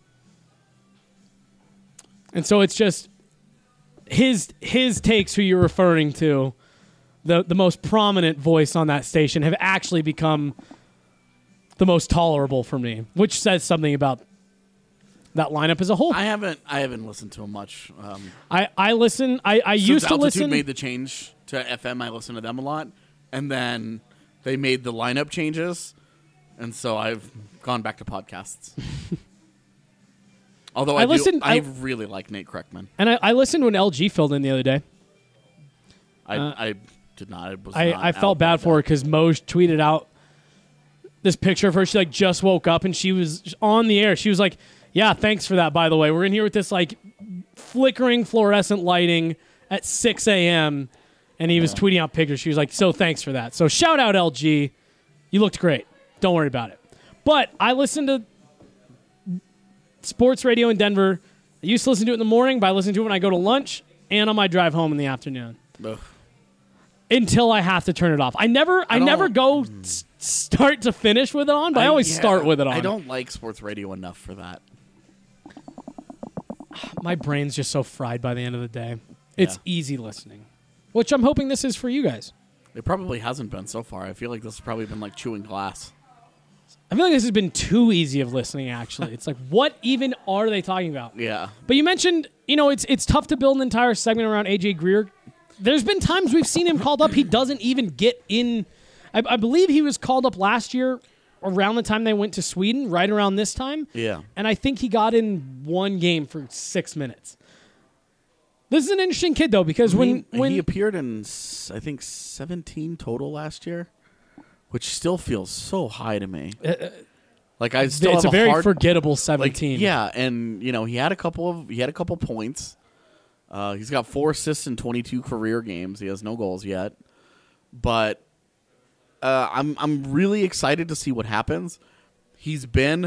And so it's just his takes, who you're referring to, the most prominent voice on that station, have actually become the most tolerable for me, which says something about that lineup as a whole. I haven't listened to him much. I listen. I used to listen. Altitude made the change to FM. I listen to them a lot. And then they made the lineup changes, and so I've gone back to podcasts. Although I really like Nate Kreckman. And I listened when LG filled in the other day. I did not. I felt bad for her because Moj tweeted out this picture of her. She like just woke up and she was on the air. She was like, "Yeah, thanks for that. By the way, we're in here with this like flickering fluorescent lighting at 6 a.m." And he was tweeting out pictures. She was like, so thanks for that. So shout out, LG. You looked great. Don't worry about it. But I listened to sports radio in Denver. I used to listen to it in the morning, but I listen to it when I go to lunch and on my drive home in the afternoon. Ugh. Until I have to turn it off. I never go start to finish with it on, but I always start with it on. I don't like sports radio enough for that. My brain's just so fried by the end of the day. It's easy listening. Which I'm hoping this is for you guys. It probably hasn't been so far. I feel like this has probably been like chewing glass. I feel like this has been too easy of listening, actually. It's like, what even are they talking about? Yeah. But you mentioned, it's tough to build an entire segment around AJ Greer. There's been times we've seen him called up. He doesn't even get in. I believe he was called up last year around the time they went to Sweden, right around this time. Yeah. And I think he got in one game for 6 minutes. This is an interesting kid, though, because when he appeared in, I think, 17 total last year, which still feels so high to me. Like I still it's have a very forgettable 17. Like, yeah, and he had a couple points. He's got 4 assists in 22 career games. He has no goals yet, but I'm really excited to see what happens. He's been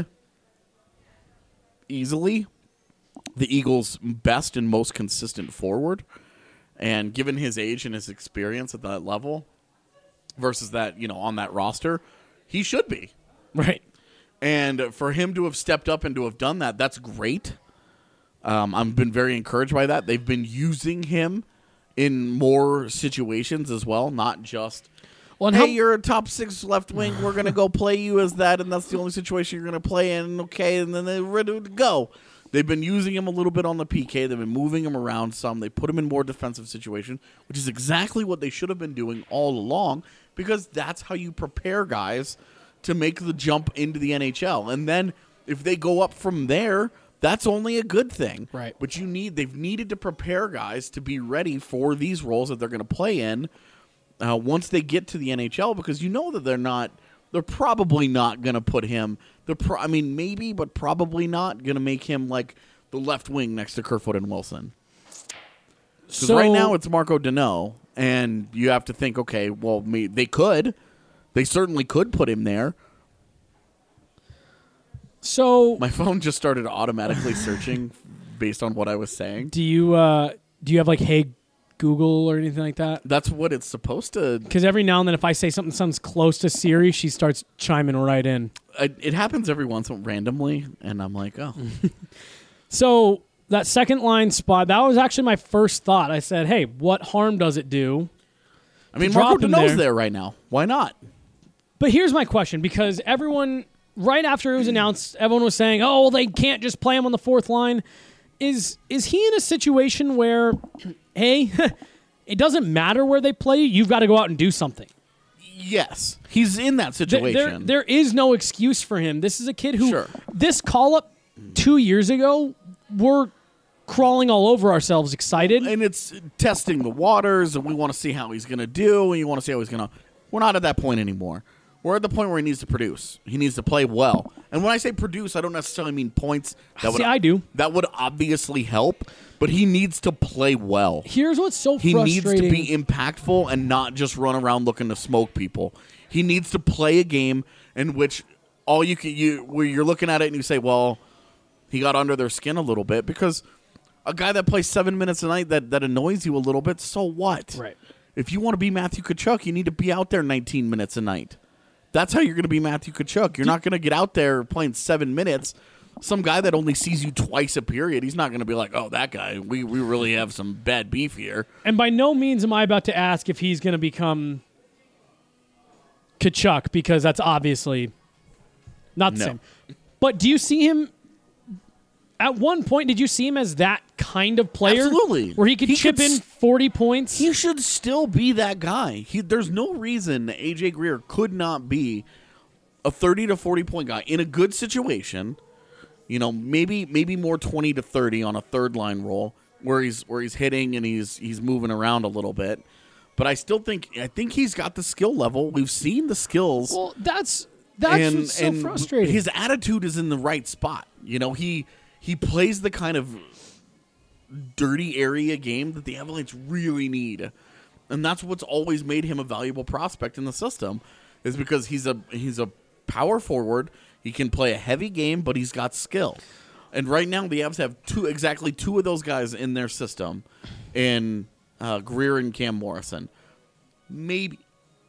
easily the Eagles' best and most consistent forward. And given his age and his experience at that level versus that, on that roster, he should be. Right. And for him to have stepped up and to have done that, that's great. I've been very encouraged by that. They've been using him in more situations as well, not just Well, and hey, how- you're a top 6 left wing. We're going to go play you as that, and that's the only situation you're going to play in. Okay, and then they're ready to go. They've been using him a little bit on the PK. They've been moving him around some. They put him in more defensive situations, which is exactly what they should have been doing all along, because that's how you prepare guys to make the jump into the NHL. And then if they go up from there, that's only a good thing. Right. But they've needed to prepare guys to be ready for these roles that they're going to play in once they get to the NHL, because you know that they're probably not going to put him. Maybe, but probably not going to make him like the left wing next to Kerfoot and Wilson. Because right now it's Marco Deneau, and you have to think, okay, well, they certainly could put him there. So My phone just started automatically searching based on what I was saying. do you have like Hey Google or anything like that? That's what it's supposed to. Because every now and then, if I say something sounds close to Siri, she starts chiming right in. It happens every once in a while randomly, and I'm like, oh. So that second line spot, that was actually my first thought. I said, hey, what harm does it do? I mean, drop Marco him Deneau's there. there right now. Why not? But here's my question, because everyone, right after it was announced, everyone was saying, oh, well, they can't just play him on the fourth line. Is he in a situation where, hey, it doesn't matter where they play you, you've got to go out and do something? Yes. He's in that situation. There is no excuse for him. This is a kid who, Sure. this call-up 2 years ago, we're crawling all over ourselves excited. And it's testing the waters, and we want to see how he's going to do, and you want to see how he's going to. We're not at that point anymore. We're at the point where he needs to produce. He needs to play well. And when I say produce, I don't necessarily mean points. I do. That would obviously help, but he needs to play well. Here's what's so He frustrating. needs to be impactful and not just run around looking to smoke people. He needs to play a game in which where you're looking at it and you say, well, he got under their skin a little bit, because a guy that plays 7 minutes a night that annoys you a little bit, so what? Right. If you want to be Matthew Tkachuk, you need to be out there 19 minutes a night. That's how you're going to be Matthew Tkachuk. You're not going to get out there playing 7 minutes. Some guy that only sees you twice a period, he's not going to be like, oh, that guy, we really have some bad beef here. And by no means am I about to ask if he's going to become Tkachuk, because that's obviously not the No. same. But do you see him, at one point, did you see him as that kind of player? Absolutely. Where he could chip in 40 points? He should still be that guy. There's no reason that A.J. Greer could not be a 30 to 40 point guy in a good situation. You know, maybe more 20 to 30 on a third line role where he's hitting and he's moving around a little bit. But I think he's got the skill level. We've seen the skills. Well, that's what's so frustrating. His attitude is in the right spot. You know, he plays the kind of dirty area game that the Avalanche really need. And that's what's always made him a valuable prospect in the system, is because he's a power forward. He can play a heavy game, but he's got skill. And right now the Avs have exactly two of those guys in their system, in Greer and Cam Morrison. Maybe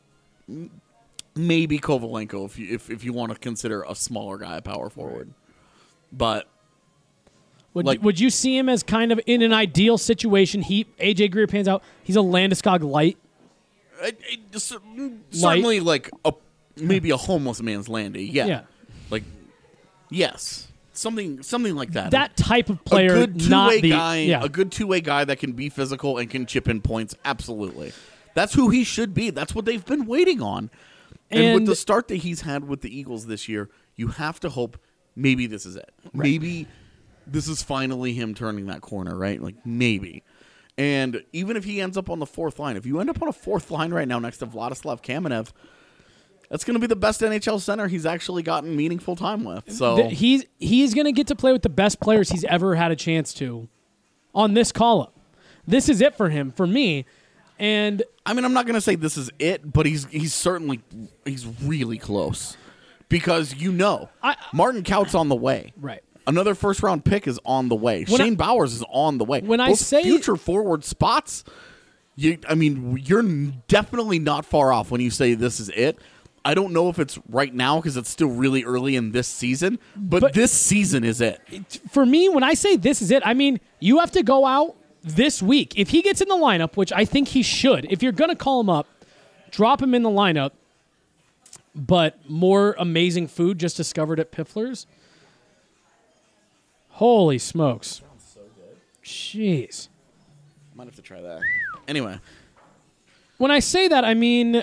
Kovalenko if you want to consider a smaller guy a power forward. But would you see him as kind of in an ideal situation? AJ Greer pans out. He's a Landeskog light. Certainly, like maybe a homeless man's Landy. Yeah. Like, yes, something like that. That type of player, a good not two-way the guy, yeah. a good two-way guy that can be physical and can chip in points. Absolutely, that's who he should be. That's what they've been waiting on. And with the start that he's had with the Eagles this year, you have to hope maybe this is it. Right. Maybe this is finally him turning that corner, right? Like, maybe. And even if he ends up on the fourth line, if you end up on a fourth line right now next to Vladislav Kamenev, that's going to be the best NHL center he's actually gotten meaningful time with. So he's going to get to play with the best players he's ever had a chance to on this call-up. This is it for him, for me. And I mean, I'm not going to say this is it, but he's really close, because Martin Kaut's on the way. Right. Another first-round pick is on the way. Shane Bowers is on the way. When Those future forward spots, you're definitely not far off when you say this is it. I don't know if it's right now because it's still really early in this season, but this season is it. For me, when I say this is it, I mean you have to go out this week. If he gets in the lineup, which I think he should, if you're going to call him up, drop him in the lineup, but more amazing food just discovered at Piffler's. Holy smokes. Sounds so good. Jeez. Might have to try that. Anyway. When I say that, I mean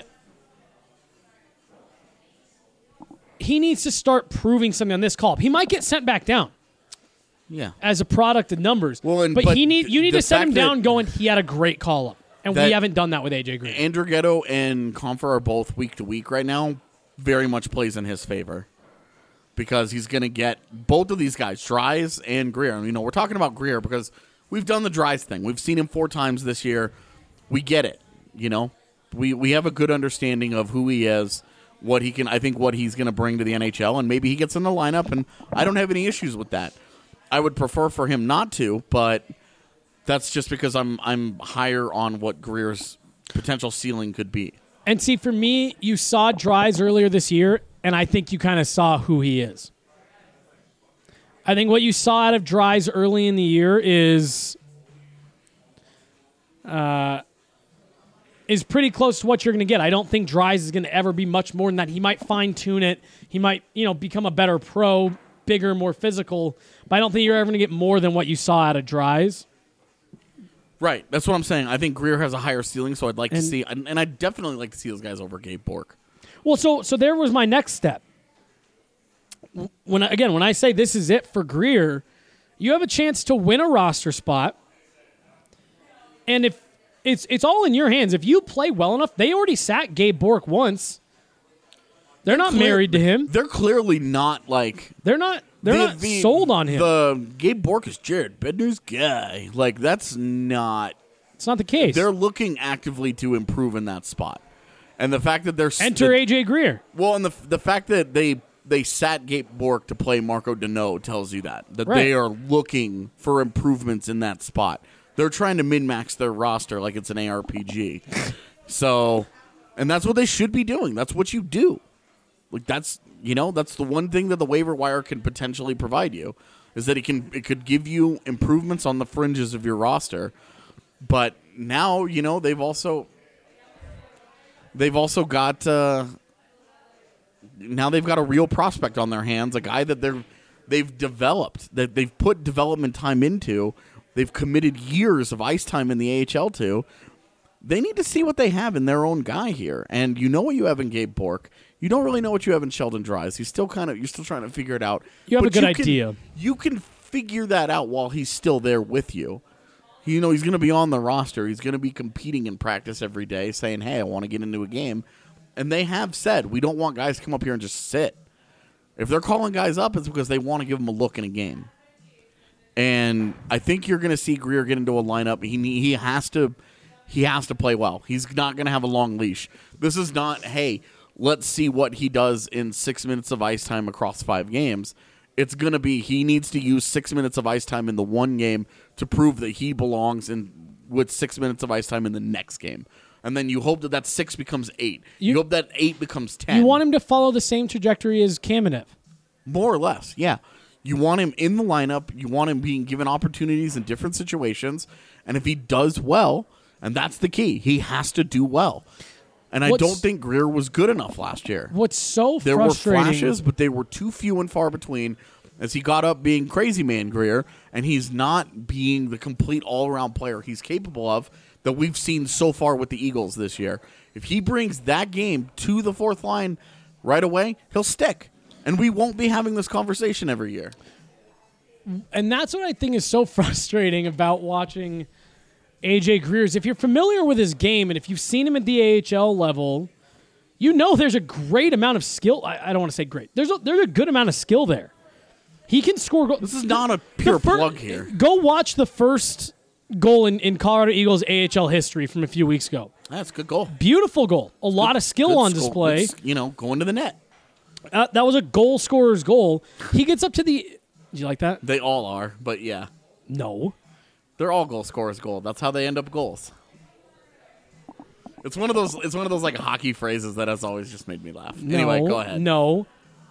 he needs to start proving something on this call-up. He might get sent back down. Yeah. As a product of numbers. Well, but you need to set him down going, he had a great call-up. And we haven't done that with AJ Green. Andrighetto and Confer are both week to week right now. Very much plays in his favor. Because he's going to get both of these guys, Dries and Greer. You know, we're talking about Greer because we've done the Dries thing. We've seen him 4 times this year. We get it, you know. We have a good understanding of who he is, what he can. I think what he's going to bring to the NHL, and maybe he gets in the lineup, and I don't have any issues with that. I would prefer for him not to, but that's just because I'm higher on what Greer's potential ceiling could be. And see, for me, you saw Dries earlier this year, and I think you kind of saw who he is. I think what you saw out of Dries early in the year is pretty close to what you're going to get. I don't think Dries is going to ever be much more than that. He might fine-tune it. He might, become a better pro, bigger, more physical, but I don't think you're ever going to get more than what you saw out of Dries. Right. That's what I'm saying. I think Greer has a higher ceiling, so I'd like to see, and I'd definitely like to see those guys over Gabe Bourque. Well, so there was my next step. When I say this is it for Greer, you have a chance to win a roster spot, and if it's all in your hands. If you play well enough, they already sat Gabe Bourque once. They're not married to him. They're clearly not like they're not sold on him. The Gabe Bourque is Jared Bednar's guy. Like that's not. It's not the case. They're looking actively to improve in that spot, and the fact that they're enter AJ Greer. Well, and the fact that they sat Gabe Bourque to play Marco Deneau tells you that right. They are looking for improvements in that spot. They're trying to min-max their roster like it's an ARPG. So, and that's what they should be doing. That's what you do. Like that's the one thing that the waiver wire can potentially provide you is that it could give you improvements on the fringes of your roster. But now, they've also got now they've got a real prospect on their hands, a guy that they've developed, that they've put development time into. They've committed years of ice time in the AHL to. They need to see what they have in their own guy here. And you know what you have in Gabe Bourque. You don't really know what you have in Sheldon Dries. You're still trying to figure it out. You have a good idea. You can figure that out while he's still there with you. He's going to be on the roster. He's going to be competing in practice every day, saying, hey, I want to get into a game. And they have said, we don't want guys to come up here and just sit. If they're calling guys up, it's because they want to give them a look in a game. And I think you're going to see Greer get into a lineup. He has to play well. He's not going to have a long leash. This is not, hey, let's see what he does in 6 minutes of ice time across 5 games. It's going to be he needs to use 6 minutes of ice time in the one game to prove that he belongs with 6 minutes of ice time in the next game. And then you hope that 6 becomes 8. You hope that 8 becomes 10. You want him to follow the same trajectory as Kamenev. More or less, yeah. You want him in the lineup. You want him being given opportunities in different situations. And if he does well, and that's the key, he has to do well. And I don't think Greer was good enough last year. What's so frustrating... There were flashes, but they were too few and far between as he got up being crazy man Greer, and he's not being the complete all-around player he's capable of that we've seen so far with the Eagles this year. If he brings that game to the fourth line right away, he'll stick. And we won't be having this conversation every year. And that's what I think is so frustrating about watching AJ Greer is if you're familiar with his game and if you've seen him at the AHL level, there's a great amount of skill. I don't want to say great. There's a good amount of skill there. He can score goals. This is not a pure plug here. Go watch the first goal in Colorado Eagles AHL history from a few weeks ago. That's a good goal. Beautiful goal. A lot of skill on display. It's, going to the net. That was a goal scorer's goal. He gets up to the... Did you like that? They all are, but yeah. No. They're all goal scorers' goal. That's how they end up goals. It's one of those like hockey phrases that has always just made me laugh. Anyway, go ahead. No.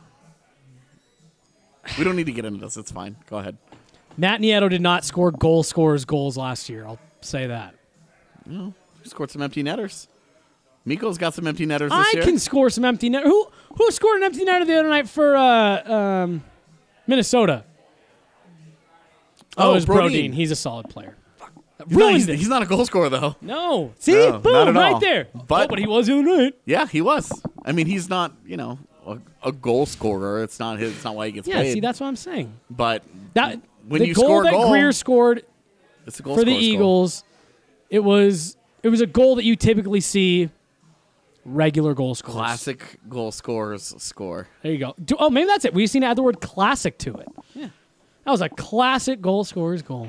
We don't need to get into this. It's fine. Go ahead. Matt Nieto did not score goal scorers' goals last year. I'll say that. He scored some empty netters. Miko's got some empty netters this I year. can score some empty net. Who scored an empty netter the other night for Minnesota? Oh, it was Brodeen. He's a solid player. He's not a goal scorer, though. No. See? No, not Boom, at right all. there. But he was the other night. Yeah, he was. I mean, he's not, a goal scorer. It's not why he gets Yeah, paid. see, that's what I'm saying. But That when the you goal score a that goal, Greer scored it's a goal for the scorer's goal. Eagles, it was a goal that you typically see regular goal scorers. Classic goal scorers score. There you go. Maybe that's it. We just need to add the word classic to it. Yeah. That was a classic goal scorer's goal.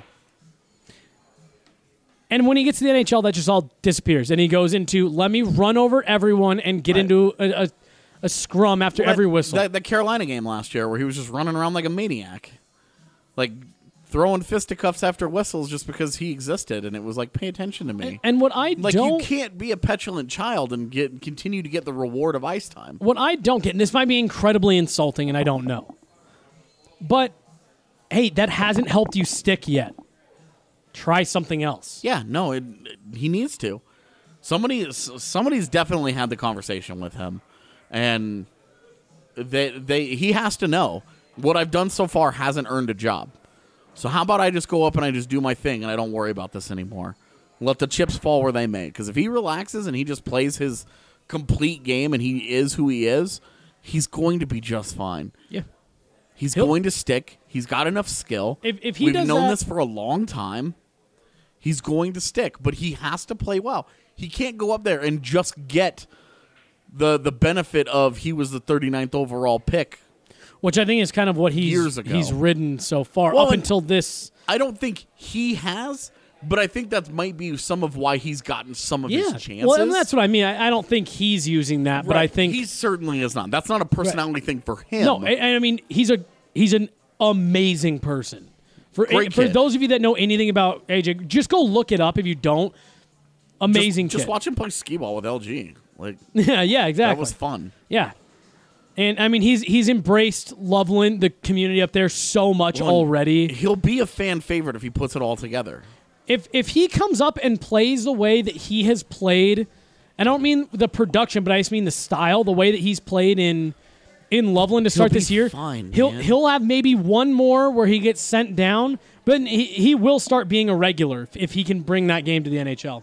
And when he gets to the NHL, that just all disappears. And he goes into, let me run over everyone and get into a scrum after every whistle. That Carolina game last year where he was just running around like a maniac. Like throwing fisticuffs after whistles just because he existed. And it was like, pay attention to me. And what I like, don't... you can't be a petulant child and continue to get the reward of ice time. What I don't get, and this might be incredibly insulting and I don't know, but, hey, that hasn't helped you stick yet. Try something else. Yeah, no, he needs to. Somebody's definitely had the conversation with him, and he has to know what I've done so far hasn't earned a job. So how about I just go up and I just do my thing and I don't worry about this anymore. Let the chips fall where they may. Because if he relaxes and he just plays his complete game and he is who he is, he's going to be just fine. Yeah. He's going to stick. He's got enough skill. If he We've does known that, this for a long time. He's going to stick, but he has to play well. He can't go up there and just get the benefit of he was the 39th overall pick. Which I think is kind of what years ago. he's ridden so far, Well, up until this. I don't think he has, but I think that might be some of why he's gotten some of his chances. Well, and that's what I mean. I don't think he's using that, but I think he certainly is not. That's not a personality thing for him. No, I mean he's an amazing person. For kid. those of you that know anything about AJ, just go look it up if you don't. Amazing Just kid. watch him play skee ball with LG. Like yeah, exactly. That was fun. Yeah. And I mean he's embraced Loveland, the community up there, so much already. He'll be a fan favorite if he puts it all together. If he comes up and plays the way that he has played, I don't mean the production, but I just mean the style, the way that he's played in Loveland to start this year. Fine, he'll have maybe one more where he gets sent down, but he will start being a regular if he can bring that game to the NHL.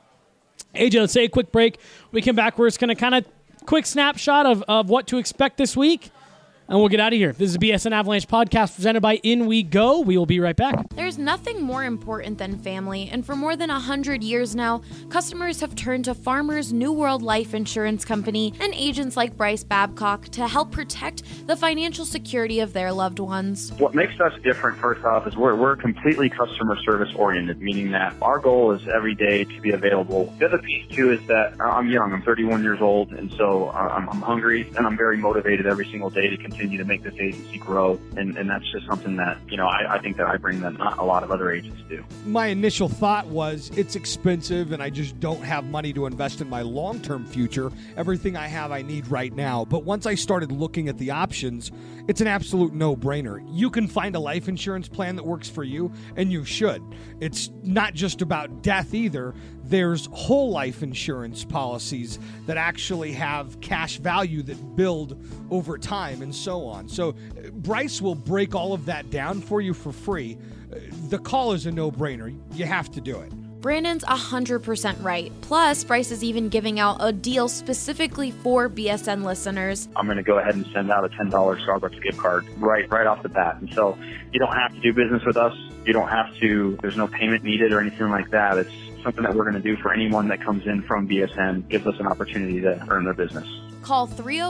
AJ, let's take a quick break. We come back, we're just going to kind of quick snapshot of what to expect this week, and we'll get out of here. This is a BSN Avalanche podcast presented by In We Go. We will be right back. There's nothing more important than family, and for more than 100 years now, customers have turned to Farmers New World Life Insurance Company and agents like Bryce Babcock to help protect the financial security of their loved ones. What makes us different, first off, is we're completely customer service oriented, meaning that our goal is every day to be available. The other piece, too, is that I'm young. I'm 31 years old, and so I'm hungry, and I'm very motivated every single day to continue to make this agency grow, and that's just something that, I think that I bring that not a lot of other agents do. My initial thought was it's expensive and I just don't have money to invest in my long-term future. Everything I have I need right now. But once I started looking at the options, it's an absolute no-brainer. You can find a life insurance plan that works for you, and you should. It's not just about death either. There's whole life insurance policies that actually have cash value that build over time and so on. So Bryce will break all of that down for you for free. The call is a no-brainer. You have to do it. Brandon's 100% right. Plus, Bryce is even giving out a deal specifically for BSN listeners. I'm going to go ahead and send out a $10 Starbucks gift card right off the bat. And so you don't have to do business with us. You don't have to, there's no payment needed or anything like that. It's something that we're going to do for anyone that comes in from BSN, gives us an opportunity to earn their business. Call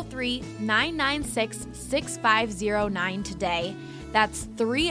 303-996-6509 today. That's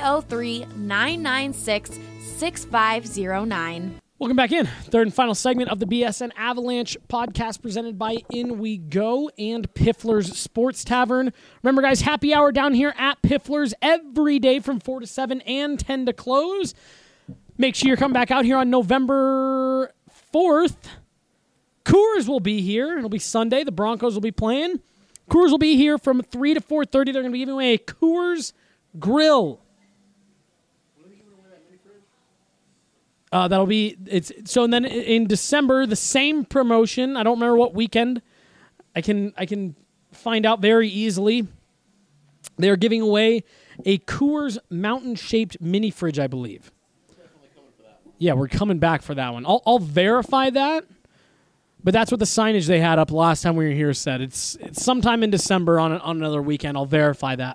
303-996-6509. Welcome back in. Third and final segment of the BSN Avalanche podcast presented by In We Go and Piffler's Sports Tavern. Remember, guys, happy hour down here at Piffler's every day from 4 to 7 and 10 to close. Make sure you come back out here on November 4th. Coors will be here. It'll be Sunday. The Broncos will be playing. Coors will be here from 3 to 4:30. They're going to be giving away a Coors Grill. That'll be and then in December, the same promotion. I don't remember what weekend. I can find out very easily. They're giving away a Coors mountain-shaped mini fridge, I believe. Yeah, we're coming back for that one. I'll verify that, but that's what the signage they had up last time we were here said. It's sometime in December on another weekend. I'll verify that.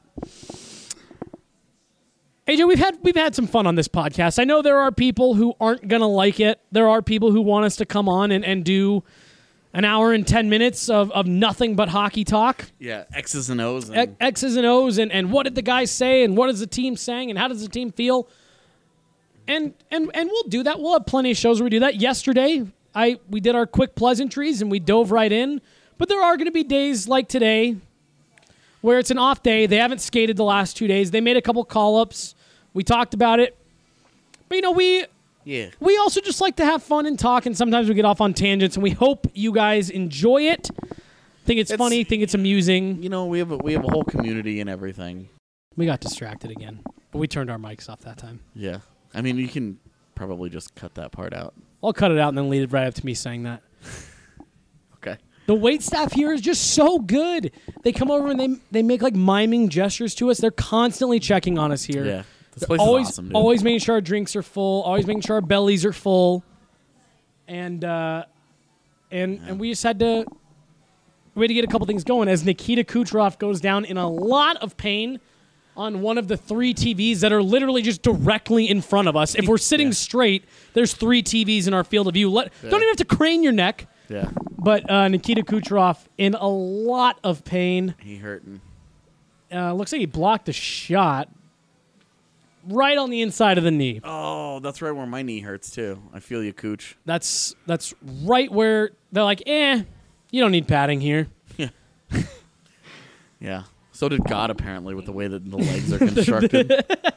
AJ, we've had some fun on this podcast. I know there are people who aren't going to like it. There are people who want us to come on and do an hour and 10 minutes of nothing but hockey talk. Yeah, X's and O's. X's and O's and what did the guys say and what is the team saying and how does the team feel? And we'll do that. We'll have plenty of shows where we do that. Yesterday, we did our quick pleasantries and we dove right in. But there are going to be days like today where it's an off day. They haven't skated the last 2 days. They made a couple call-ups. We talked about it. But, we also just like to have fun and talk, and sometimes we get off on tangents, and we hope you guys enjoy it. Think it's funny, think it's amusing. We have a whole community and everything. We got distracted again, but we turned our mics off that time. Yeah. I mean, you can probably just cut that part out. I'll cut it out and then lead it right up to me saying that. Okay. The wait staff here is just so good. They come over and they make like miming gestures to us. They're constantly checking on us here. Yeah. This place is awesome, dude. Always making sure our drinks are full. Always making sure our bellies are full. And we just had to get a couple things going as Nikita Kucherov goes down in a lot of pain on one of the 3 TVs that are literally just directly in front of us. If we're sitting straight, there's 3 TVs in our field of view. Don't even have to crane your neck. Yeah. But Nikita Kucherov in a lot of pain. He hurting. Looks like he blocked a shot right on the inside of the knee. Oh, that's right where my knee hurts too. I feel you, Cooch. That's right where they're like, you don't need padding here. Yeah. Yeah. So did God, apparently, with the way that the legs are constructed.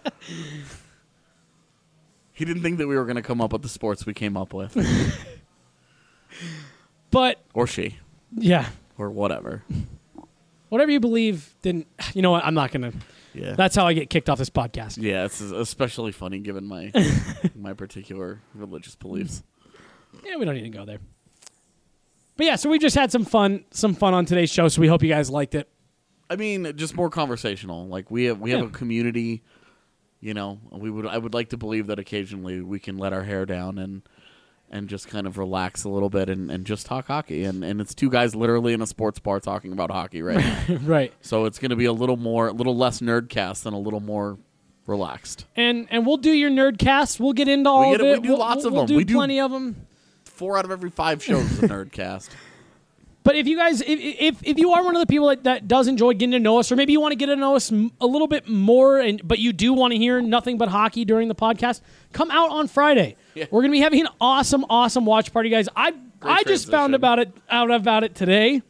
He didn't think that we were going to come up with the sports we came up with. But... Or she. Yeah. Or whatever. Whatever you believe didn't... You know what? I'm not going to... Yeah. That's how I get kicked off this podcast. Yeah, it's especially funny given my my particular religious beliefs. Yeah, we don't need to go there. But yeah, so we just had some fun on today's show, so we hope you guys liked it. I mean, just more conversational. Like we have a community, I would like to believe that occasionally we can let our hair down and just kind of relax a little bit and just talk hockey. And it's 2 guys literally in a sports bar talking about hockey right now. Right. So it's going to be a little less nerdcast and a little more relaxed. And we'll do your nerdcast. We'll get into all of it. We do lots of them. We do plenty of them. 4 out of every 5 shows is a nerdcast. But if you guys, if you are one of the people that does enjoy getting to know us, or maybe you want to get to know us a little bit more, but you do want to hear nothing but hockey during the podcast, come out on Friday. Yeah. We're going to be having an awesome watch party, guys. I just found out about it today,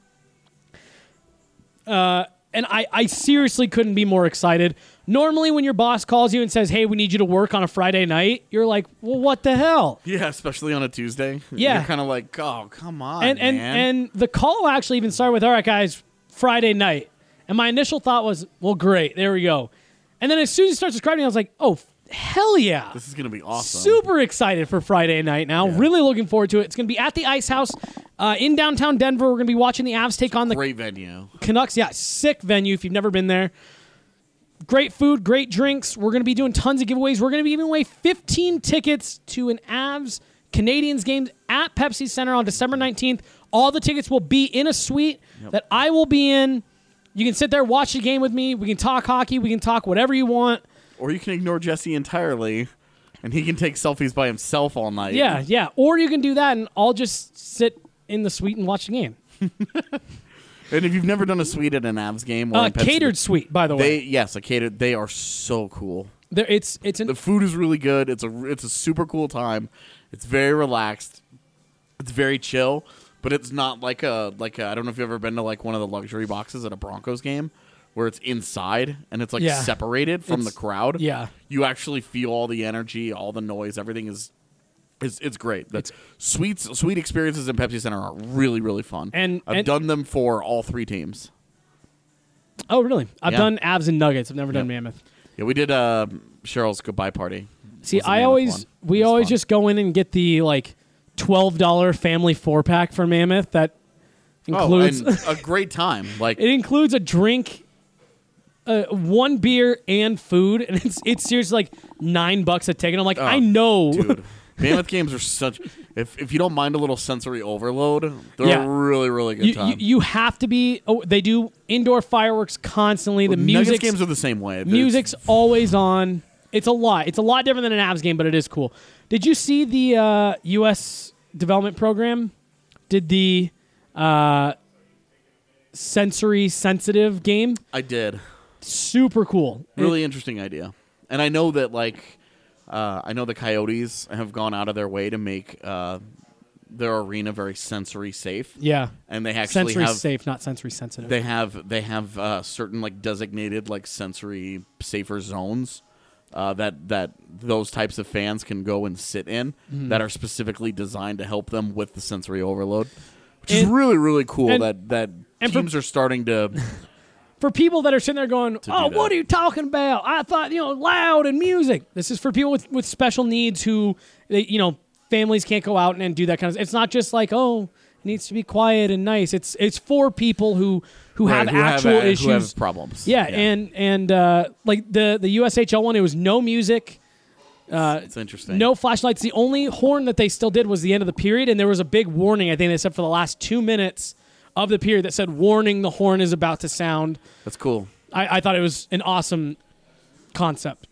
and I seriously couldn't be more excited. Normally, when your boss calls you and says, "Hey, we need you to work on a Friday night," you're like, "Well, what the hell?" Yeah, especially on a Tuesday. Yeah, you're kind of like, "Oh, come on, man." And the call actually even started with, "All right, guys, Friday night." And my initial thought was, "Well, great, there we go." And then as soon as he starts describing it, I was like, "Oh, hell yeah. This is going to be awesome." Super excited for Friday night now. Yeah. Really looking forward to it. It's going to be at the Ice House in downtown Denver. We're going to be watching the Avs take on the great venue. Canucks. Yeah, sick venue if you've never been there. Great food, great drinks. We're going to be doing tons of giveaways. We're going to be giving away 15 tickets to an Avs Canadiens game at Pepsi Center on December 19th. All the tickets will be in a suite that I will be in. You can sit there, watch the game with me. We can talk hockey. We can talk whatever you want. Or you can ignore Jesse entirely, and he can take selfies by himself all night. Yeah. Or you can do that, and I'll just sit in the suite and watch the game. And if you've never done a suite at an Avs game, catered suite, by the way. A catered. They are so cool. The food is really good. It's a super cool time. It's very relaxed. It's very chill, but it's not like a I don't know if you've ever been to like one of the luxury boxes at a Broncos game where it's inside and it's like separated from the crowd. Yeah, you actually feel all the energy, all the noise. Everything is. It's great. That's sweet experiences in Pepsi Center are really, really fun. And I've done them for all 3 teams. Oh, really? I've done Avs and Nuggets. I've never done Mammoth. Yeah, we did Cheryl's goodbye party. See, was the Mammoth one. we It was always fun. just go in and get the like $12 family 4-pack for Mammoth that includes and a great time. Like it includes a drink, one beer and food, and it's seriously like $9 a ticket. I'm like, I know. Dude, Mammoth games are such. If you don't mind a little sensory overload, they're Yeah. a really, really good time. You have to be. Oh, they do indoor fireworks constantly. The Nuggets music games are the same way. music's always on. It's a lot. It's a lot different than an Avs game, but it is cool. Did you see the U.S. development program? Did the sensory sensitive game? I did. Super cool. Really interesting idea. And I know that I know the Coyotes have gone out of their way to make their arena very sensory safe. Yeah. And they actually sensory have safe, not sensory sensitive. They have certain like designated like sensory safer zones that those types of fans can go and sit in that are specifically designed to help them with the sensory overload, which is really, really cool that teams are starting to. For people that are sitting there going, oh, that. what are you talking about? I thought, loud and music. This is for people with special needs who, families can't go out and do that kind of. It's not just like, oh, it needs to be quiet and nice. It's for people who have actual issues, who have problems. Yeah. and like the USHL one, it was no music. It's interesting. No flashlights. The only horn that they still did was the end of the period, and there was a big warning. I think they said for the last 2 minutes of the period that said, warning, the horn is about to sound. That's cool. I thought it was an awesome concept.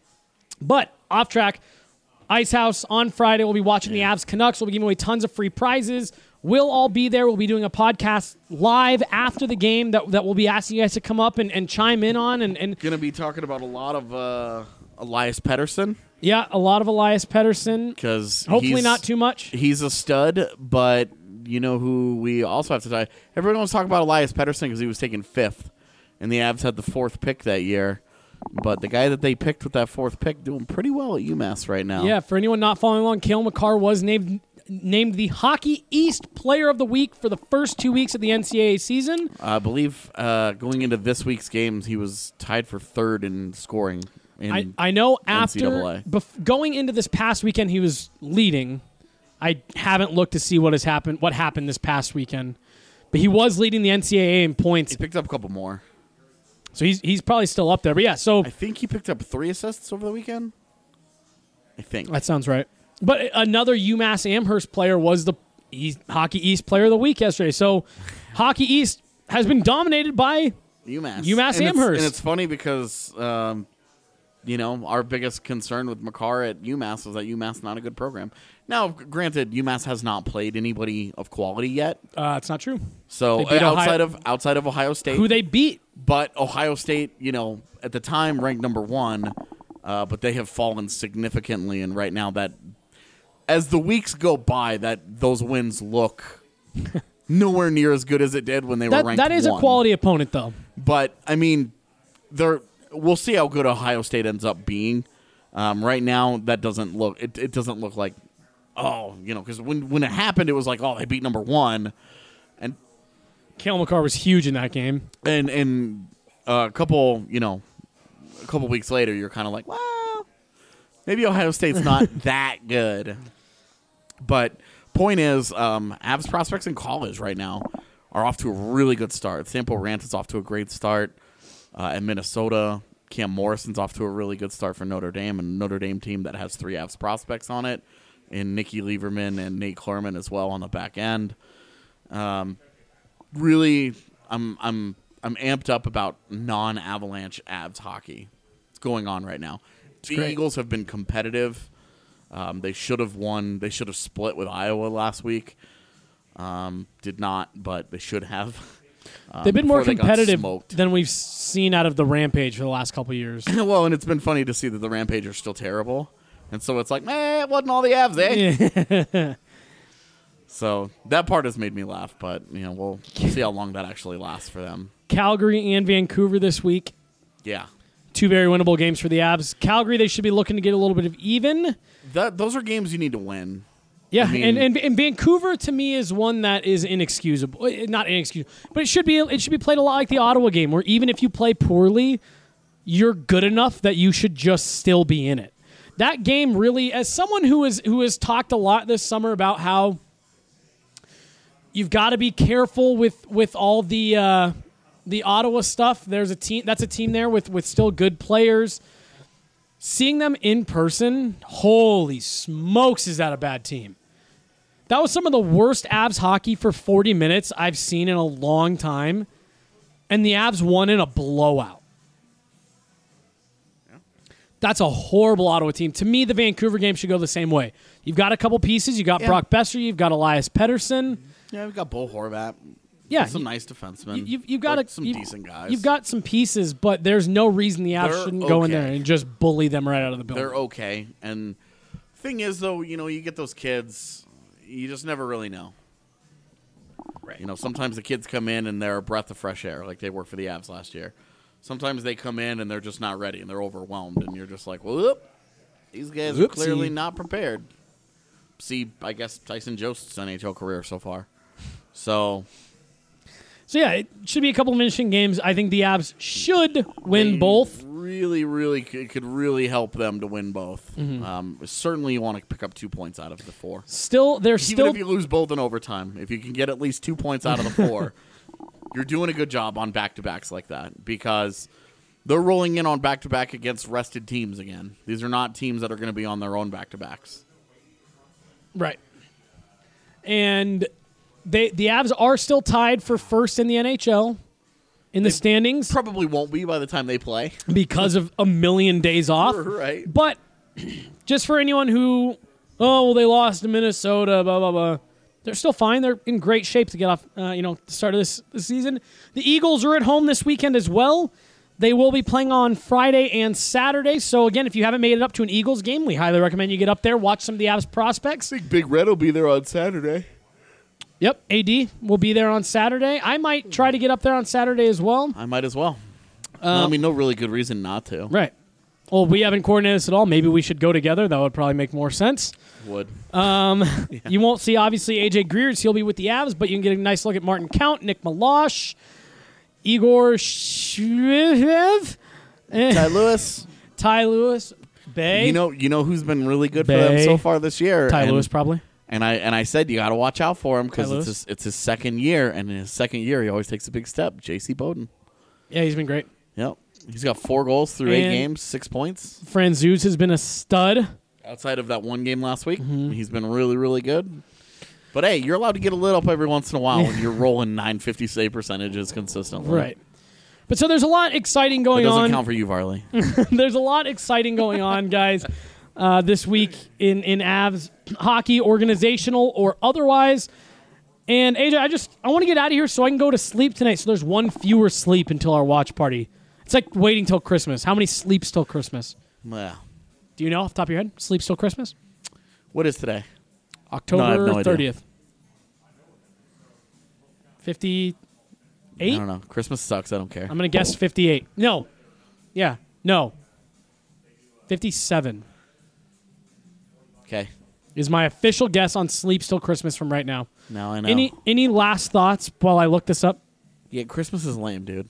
But off track, Ice House on Friday. We'll be watching the Avs Canucks. We'll be giving away tons of free prizes. We'll all be there. We'll be doing a podcast live after the game that we'll be asking you guys to come up and chime in on. And going to be talking about a lot of Elias Pettersson. Yeah, a lot of Elias Pettersson. Because hopefully not too much. He's a stud, but you know who we also have to talk. Everyone wants to talk about Elias Pettersson because he was taken 5th, and the Avs had the 4th pick that year. But the guy that they picked with that 4th pick doing pretty well at UMass right now. Yeah, for anyone not following along, Cale Makar was named the Hockey East Player of the Week for the first 2 weeks of the NCAA season. I believe going into this week's games, he was tied for 3rd in scoring. I know after NCAA. Going into this past weekend, he was leading. I haven't looked to see what happened this past weekend, but he was leading the NCAA in points. He picked up a couple more, so he's probably still up there. But yeah, so I think he picked up 3 assists over the weekend. I think that sounds right. But another UMass Amherst player was the Hockey East Player of the Week yesterday. So Hockey East has been dominated by UMass Amherst, and it's funny because. Our biggest concern with Makar at UMass was that UMass is not a good program. Now, granted, UMass has not played anybody of quality yet. It's not true. So outside of Ohio State, who they beat, but Ohio State, at the time ranked number 1, but they have fallen significantly. And right now, that as the weeks go by, that those wins look nowhere near as good as it did when they were ranked. That is 1. a quality opponent, though. But I mean, we'll see how good Ohio State ends up being. Right now, that doesn't look. It doesn't look like, because when it happened, it was like, they beat number 1, and Cale Makar was huge in that game. And a couple weeks later, you're kind of like, well, maybe Ohio State's not that good. But point is, Avs prospects in college right now are off to a really good start. Sampo Rant is off to a great start. At Minnesota, Cam Morrison's off to a really good start for Notre Dame, and a Notre Dame team that has 3 Avs prospects on it, and Nicky Lieberman and Nate Klerman as well on the back end. Really, I'm amped up about non-Avalanche Avs hockey. It's going on right now. The Eagles have been competitive. They should have won. They should have split with Iowa last week. Did not, but they should have. They've been more competitive than we've seen out of the Rampage for the last couple of years. Well, and it's been funny to see that the Rampage are still terrible. And so it's like, it wasn't all the Avs, eh? So that part has made me laugh, but we'll see how long that actually lasts for them. Calgary and Vancouver this week. Yeah. 2 very winnable games for the Avs. Calgary, they should be looking to get a little bit of even. Those are games you need to win. Yeah, and Vancouver to me is one that is inexcusable. Not inexcusable, but it should be played a lot like the Ottawa game, where even if you play poorly, you're good enough that you should just still be in it. that game really, as someone who has talked a lot this summer about how you've got to be careful with all the Ottawa stuff. There's a team there with still good players. Seeing them in person, holy smokes, is that a bad team? That was some of the worst Avs hockey for 40 minutes I've seen in a long time, and the Avs won in a blowout. Yeah. That's a horrible Ottawa team. To me, the Vancouver game should go the same way. You've got a couple pieces. You've got Brock Besser. You've got Elias Pettersson. Yeah, we've got Bo Horvat. Yeah, some nice defensemen. You've got some decent guys. You've got some pieces, but there's no reason the Avs shouldn't go in there and just bully them right out of the building. They're okay. And thing is, though, you get those kids, you just never really know. Right. Sometimes the kids come in and they're a breath of fresh air, like they were for the Avs last year. Sometimes they come in and they're just not ready and they're overwhelmed, and you're just like, whoop, these guys are clearly not prepared. See, I guess Tyson Jost's NHL career so far. So yeah, it should be a couple of interesting games. I think the Avs should win both. It could really help them to win both. Mm-hmm. Certainly, you want to pick up 2 points out of the 4. Even if you lose both in overtime, if you can get at least 2 points out of the 4, you're doing a good job on back-to-backs like that, because they're rolling in on back-to-back against rested teams again. These are not teams that are going to be on their own back-to-backs. Right. And the Avs are still tied for first in the NHL in the standings. Probably won't be by the time they play because of a million days off. Right. But just for anyone who, they lost to Minnesota, blah, blah, blah. They're still fine. They're in great shape to get off, the start of this season. The Eagles are at home this weekend as well. They will be playing on Friday and Saturday. So, again, if you haven't made it up to an Eagles game, we highly recommend you get up there, watch some of the Avs prospects. I think Big Red will be there on Saturday. Yep, AD will be there on Saturday. I might try to get up there on Saturday as well. I might as well. No really good reason not to. Right. Well, we haven't coordinated this at all. Maybe we should go together. That would probably make more sense. Would. You won't see, obviously, AJ Greer. He'll be with the Avs, but you can get a nice look at Martin Count, Nick Malosh, Igor Shvev, Ty Lewis, Bay. You know who's been really good for them so far this year? Ty Lewis, probably. And I said you got to watch out for him because it's his second year, and in his second year he always takes a big step. J.C. Bowden. Yeah, he's been great. Yep, he's got 4 goals through 8 games, 6 points. Franzuz has been a stud. Outside of that one game last week, he's been really, really good. But hey, you're allowed to get a lit up every once in a while when you're rolling 950 save percentages consistently. Right. But so there's a lot exciting going on. That doesn't count for you, Varley. There's a lot exciting going on, guys, this week in Avs hockey, organizational or otherwise. And AJ, I want to get out of here so I can go to sleep tonight. So there's one fewer sleep until our watch party. It's like waiting till Christmas. How many sleeps till Christmas? Well, do you know off the top of your head? Sleeps till Christmas? What is today? October 30th. 58? I don't know. Christmas sucks. I don't care. I'm going to guess 58. No. Yeah. No. 57. Okay. Is my official guess on sleeps till Christmas from right now. Now I know. Any last thoughts while I look this up? Yeah, Christmas is lame, dude.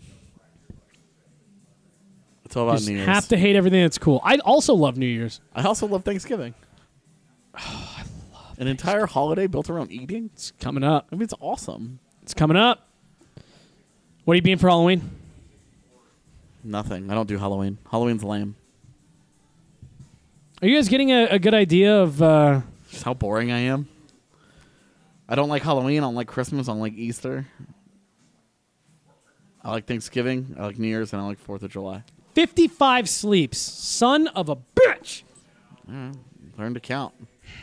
It's all about New Year's. Have to hate everything that's cool. I also love New Year's. I also love Thanksgiving. Oh, I love an entire holiday built around eating. It's coming up. I mean, it's awesome. It's coming up. What are you being for Halloween? Nothing. I don't do Halloween. Halloween's lame. Are you guys getting a good idea of just how boring I am? I don't like Halloween. I don't like Christmas. I don't like Easter. I like Thanksgiving. I like New Year's. And I like 4th of July. 55 sleeps. Son of a bitch. Learn to count.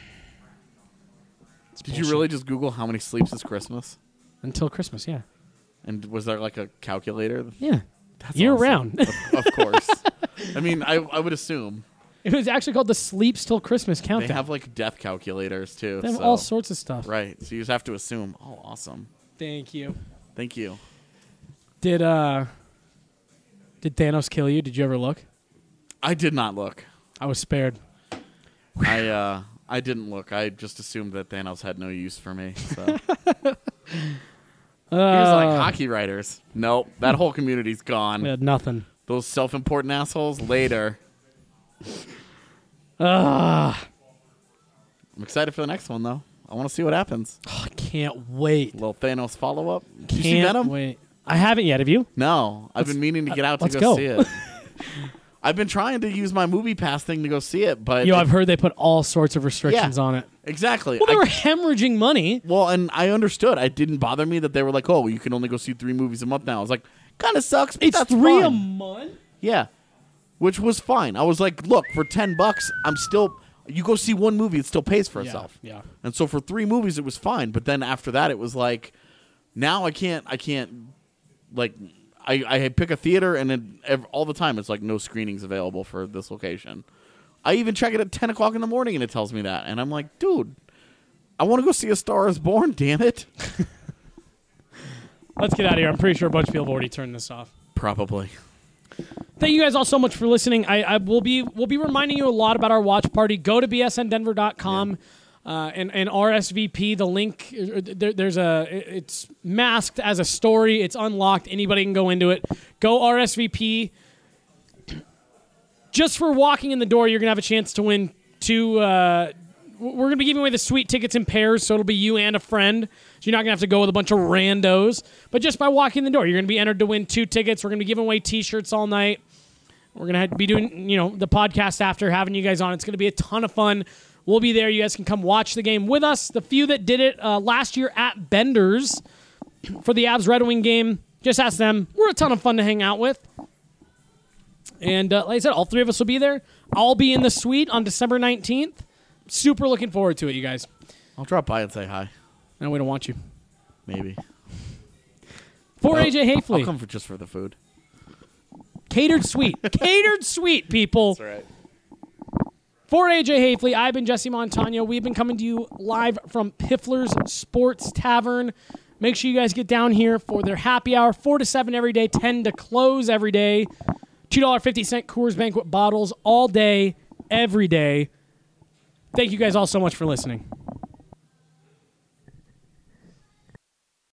Did you really just Google how many sleeps is Christmas? Until Christmas, yeah. And was there like a calculator? Yeah. That's year awesome. round. Of course. I mean, I would assume. It was actually called the Sleeps Till Christmas Countdown. They have like death calculators too. They have all sorts of stuff. Right. So you just have to assume. Oh, awesome. Thank you. Thank you. Did Thanos kill you? Did you ever look? I did not look. I was spared. I didn't look. I just assumed that Thanos had no use for me. So. He was like hockey writers. Nope. That whole community's gone. We had nothing. Those self-important assholes later. I'm excited for the next one, though. I want to see what happens. Oh, I can't wait. Little Thanos follow-up. Did you see Can't Venom? wait. I haven't yet. Have you? No. I've been meaning to get out to let's go go. see it. I've been trying to use my Movie Pass thing to go see it, but... I've heard they put all sorts of restrictions on it. Exactly. Well, they were hemorrhaging money. Well, and I understood. It didn't bother me that they were like, oh, you can only go see 3 movies a month now. I was like, kind of sucks, but It's that's 3 fine. a month? Yeah. Which was fine. I was like, look, for $10, I'm still... You go see 1 movie, it still pays for itself. Yeah. And so for 3 movies, it was fine. But then after that, it was like, now I can't, like... I pick a theater, and all the time it's like no screenings available for this location. I even check it at 10 o'clock in the morning, and it tells me that. And I'm like, dude, I want to go see A Star is Born, damn it. Let's get out of here. I'm pretty sure a bunch of people have already turned this off. Probably. Thank you guys all so much for listening. We'll be reminding you a lot about our watch party. Go to bsndenver.com. And RSVP, the link, it's masked as a story. It's unlocked. Anybody can go into it. Go RSVP. Just for walking in the door, you're going to have a chance to win 2. We're going to be giving away the sweet tickets in pairs, so it'll be you and a friend. So you're not going to have to go with a bunch of randos. But just by walking in the door, you're going to be entered to win 2 tickets. We're going to be giving away T-shirts all night. We're going to be doing, the podcast after, having you guys on. It's going to be a ton of fun. We'll be there. You guys can come watch the game with us. The few that did it last year at Bender's for the Avs Red Wing game, just ask them. We're a ton of fun to hang out with. And like I said, all 3 of us will be there. I'll be in the suite on December 19th. Super looking forward to it, you guys. I'll drop by and say hi. No, we don't want you. Maybe. For AJ Hafley. I'll come just for the food. Catered suite. Catered suite, people. That's right. For AJ Hafley, I've been Jesse Montano. We've been coming to you live from Piffler's Sports Tavern. Make sure you guys get down here for their happy hour, 4 to 7 every day, 10 to close every day. $2.50 Coors Banquet bottles all day, every day. Thank you guys all so much for listening.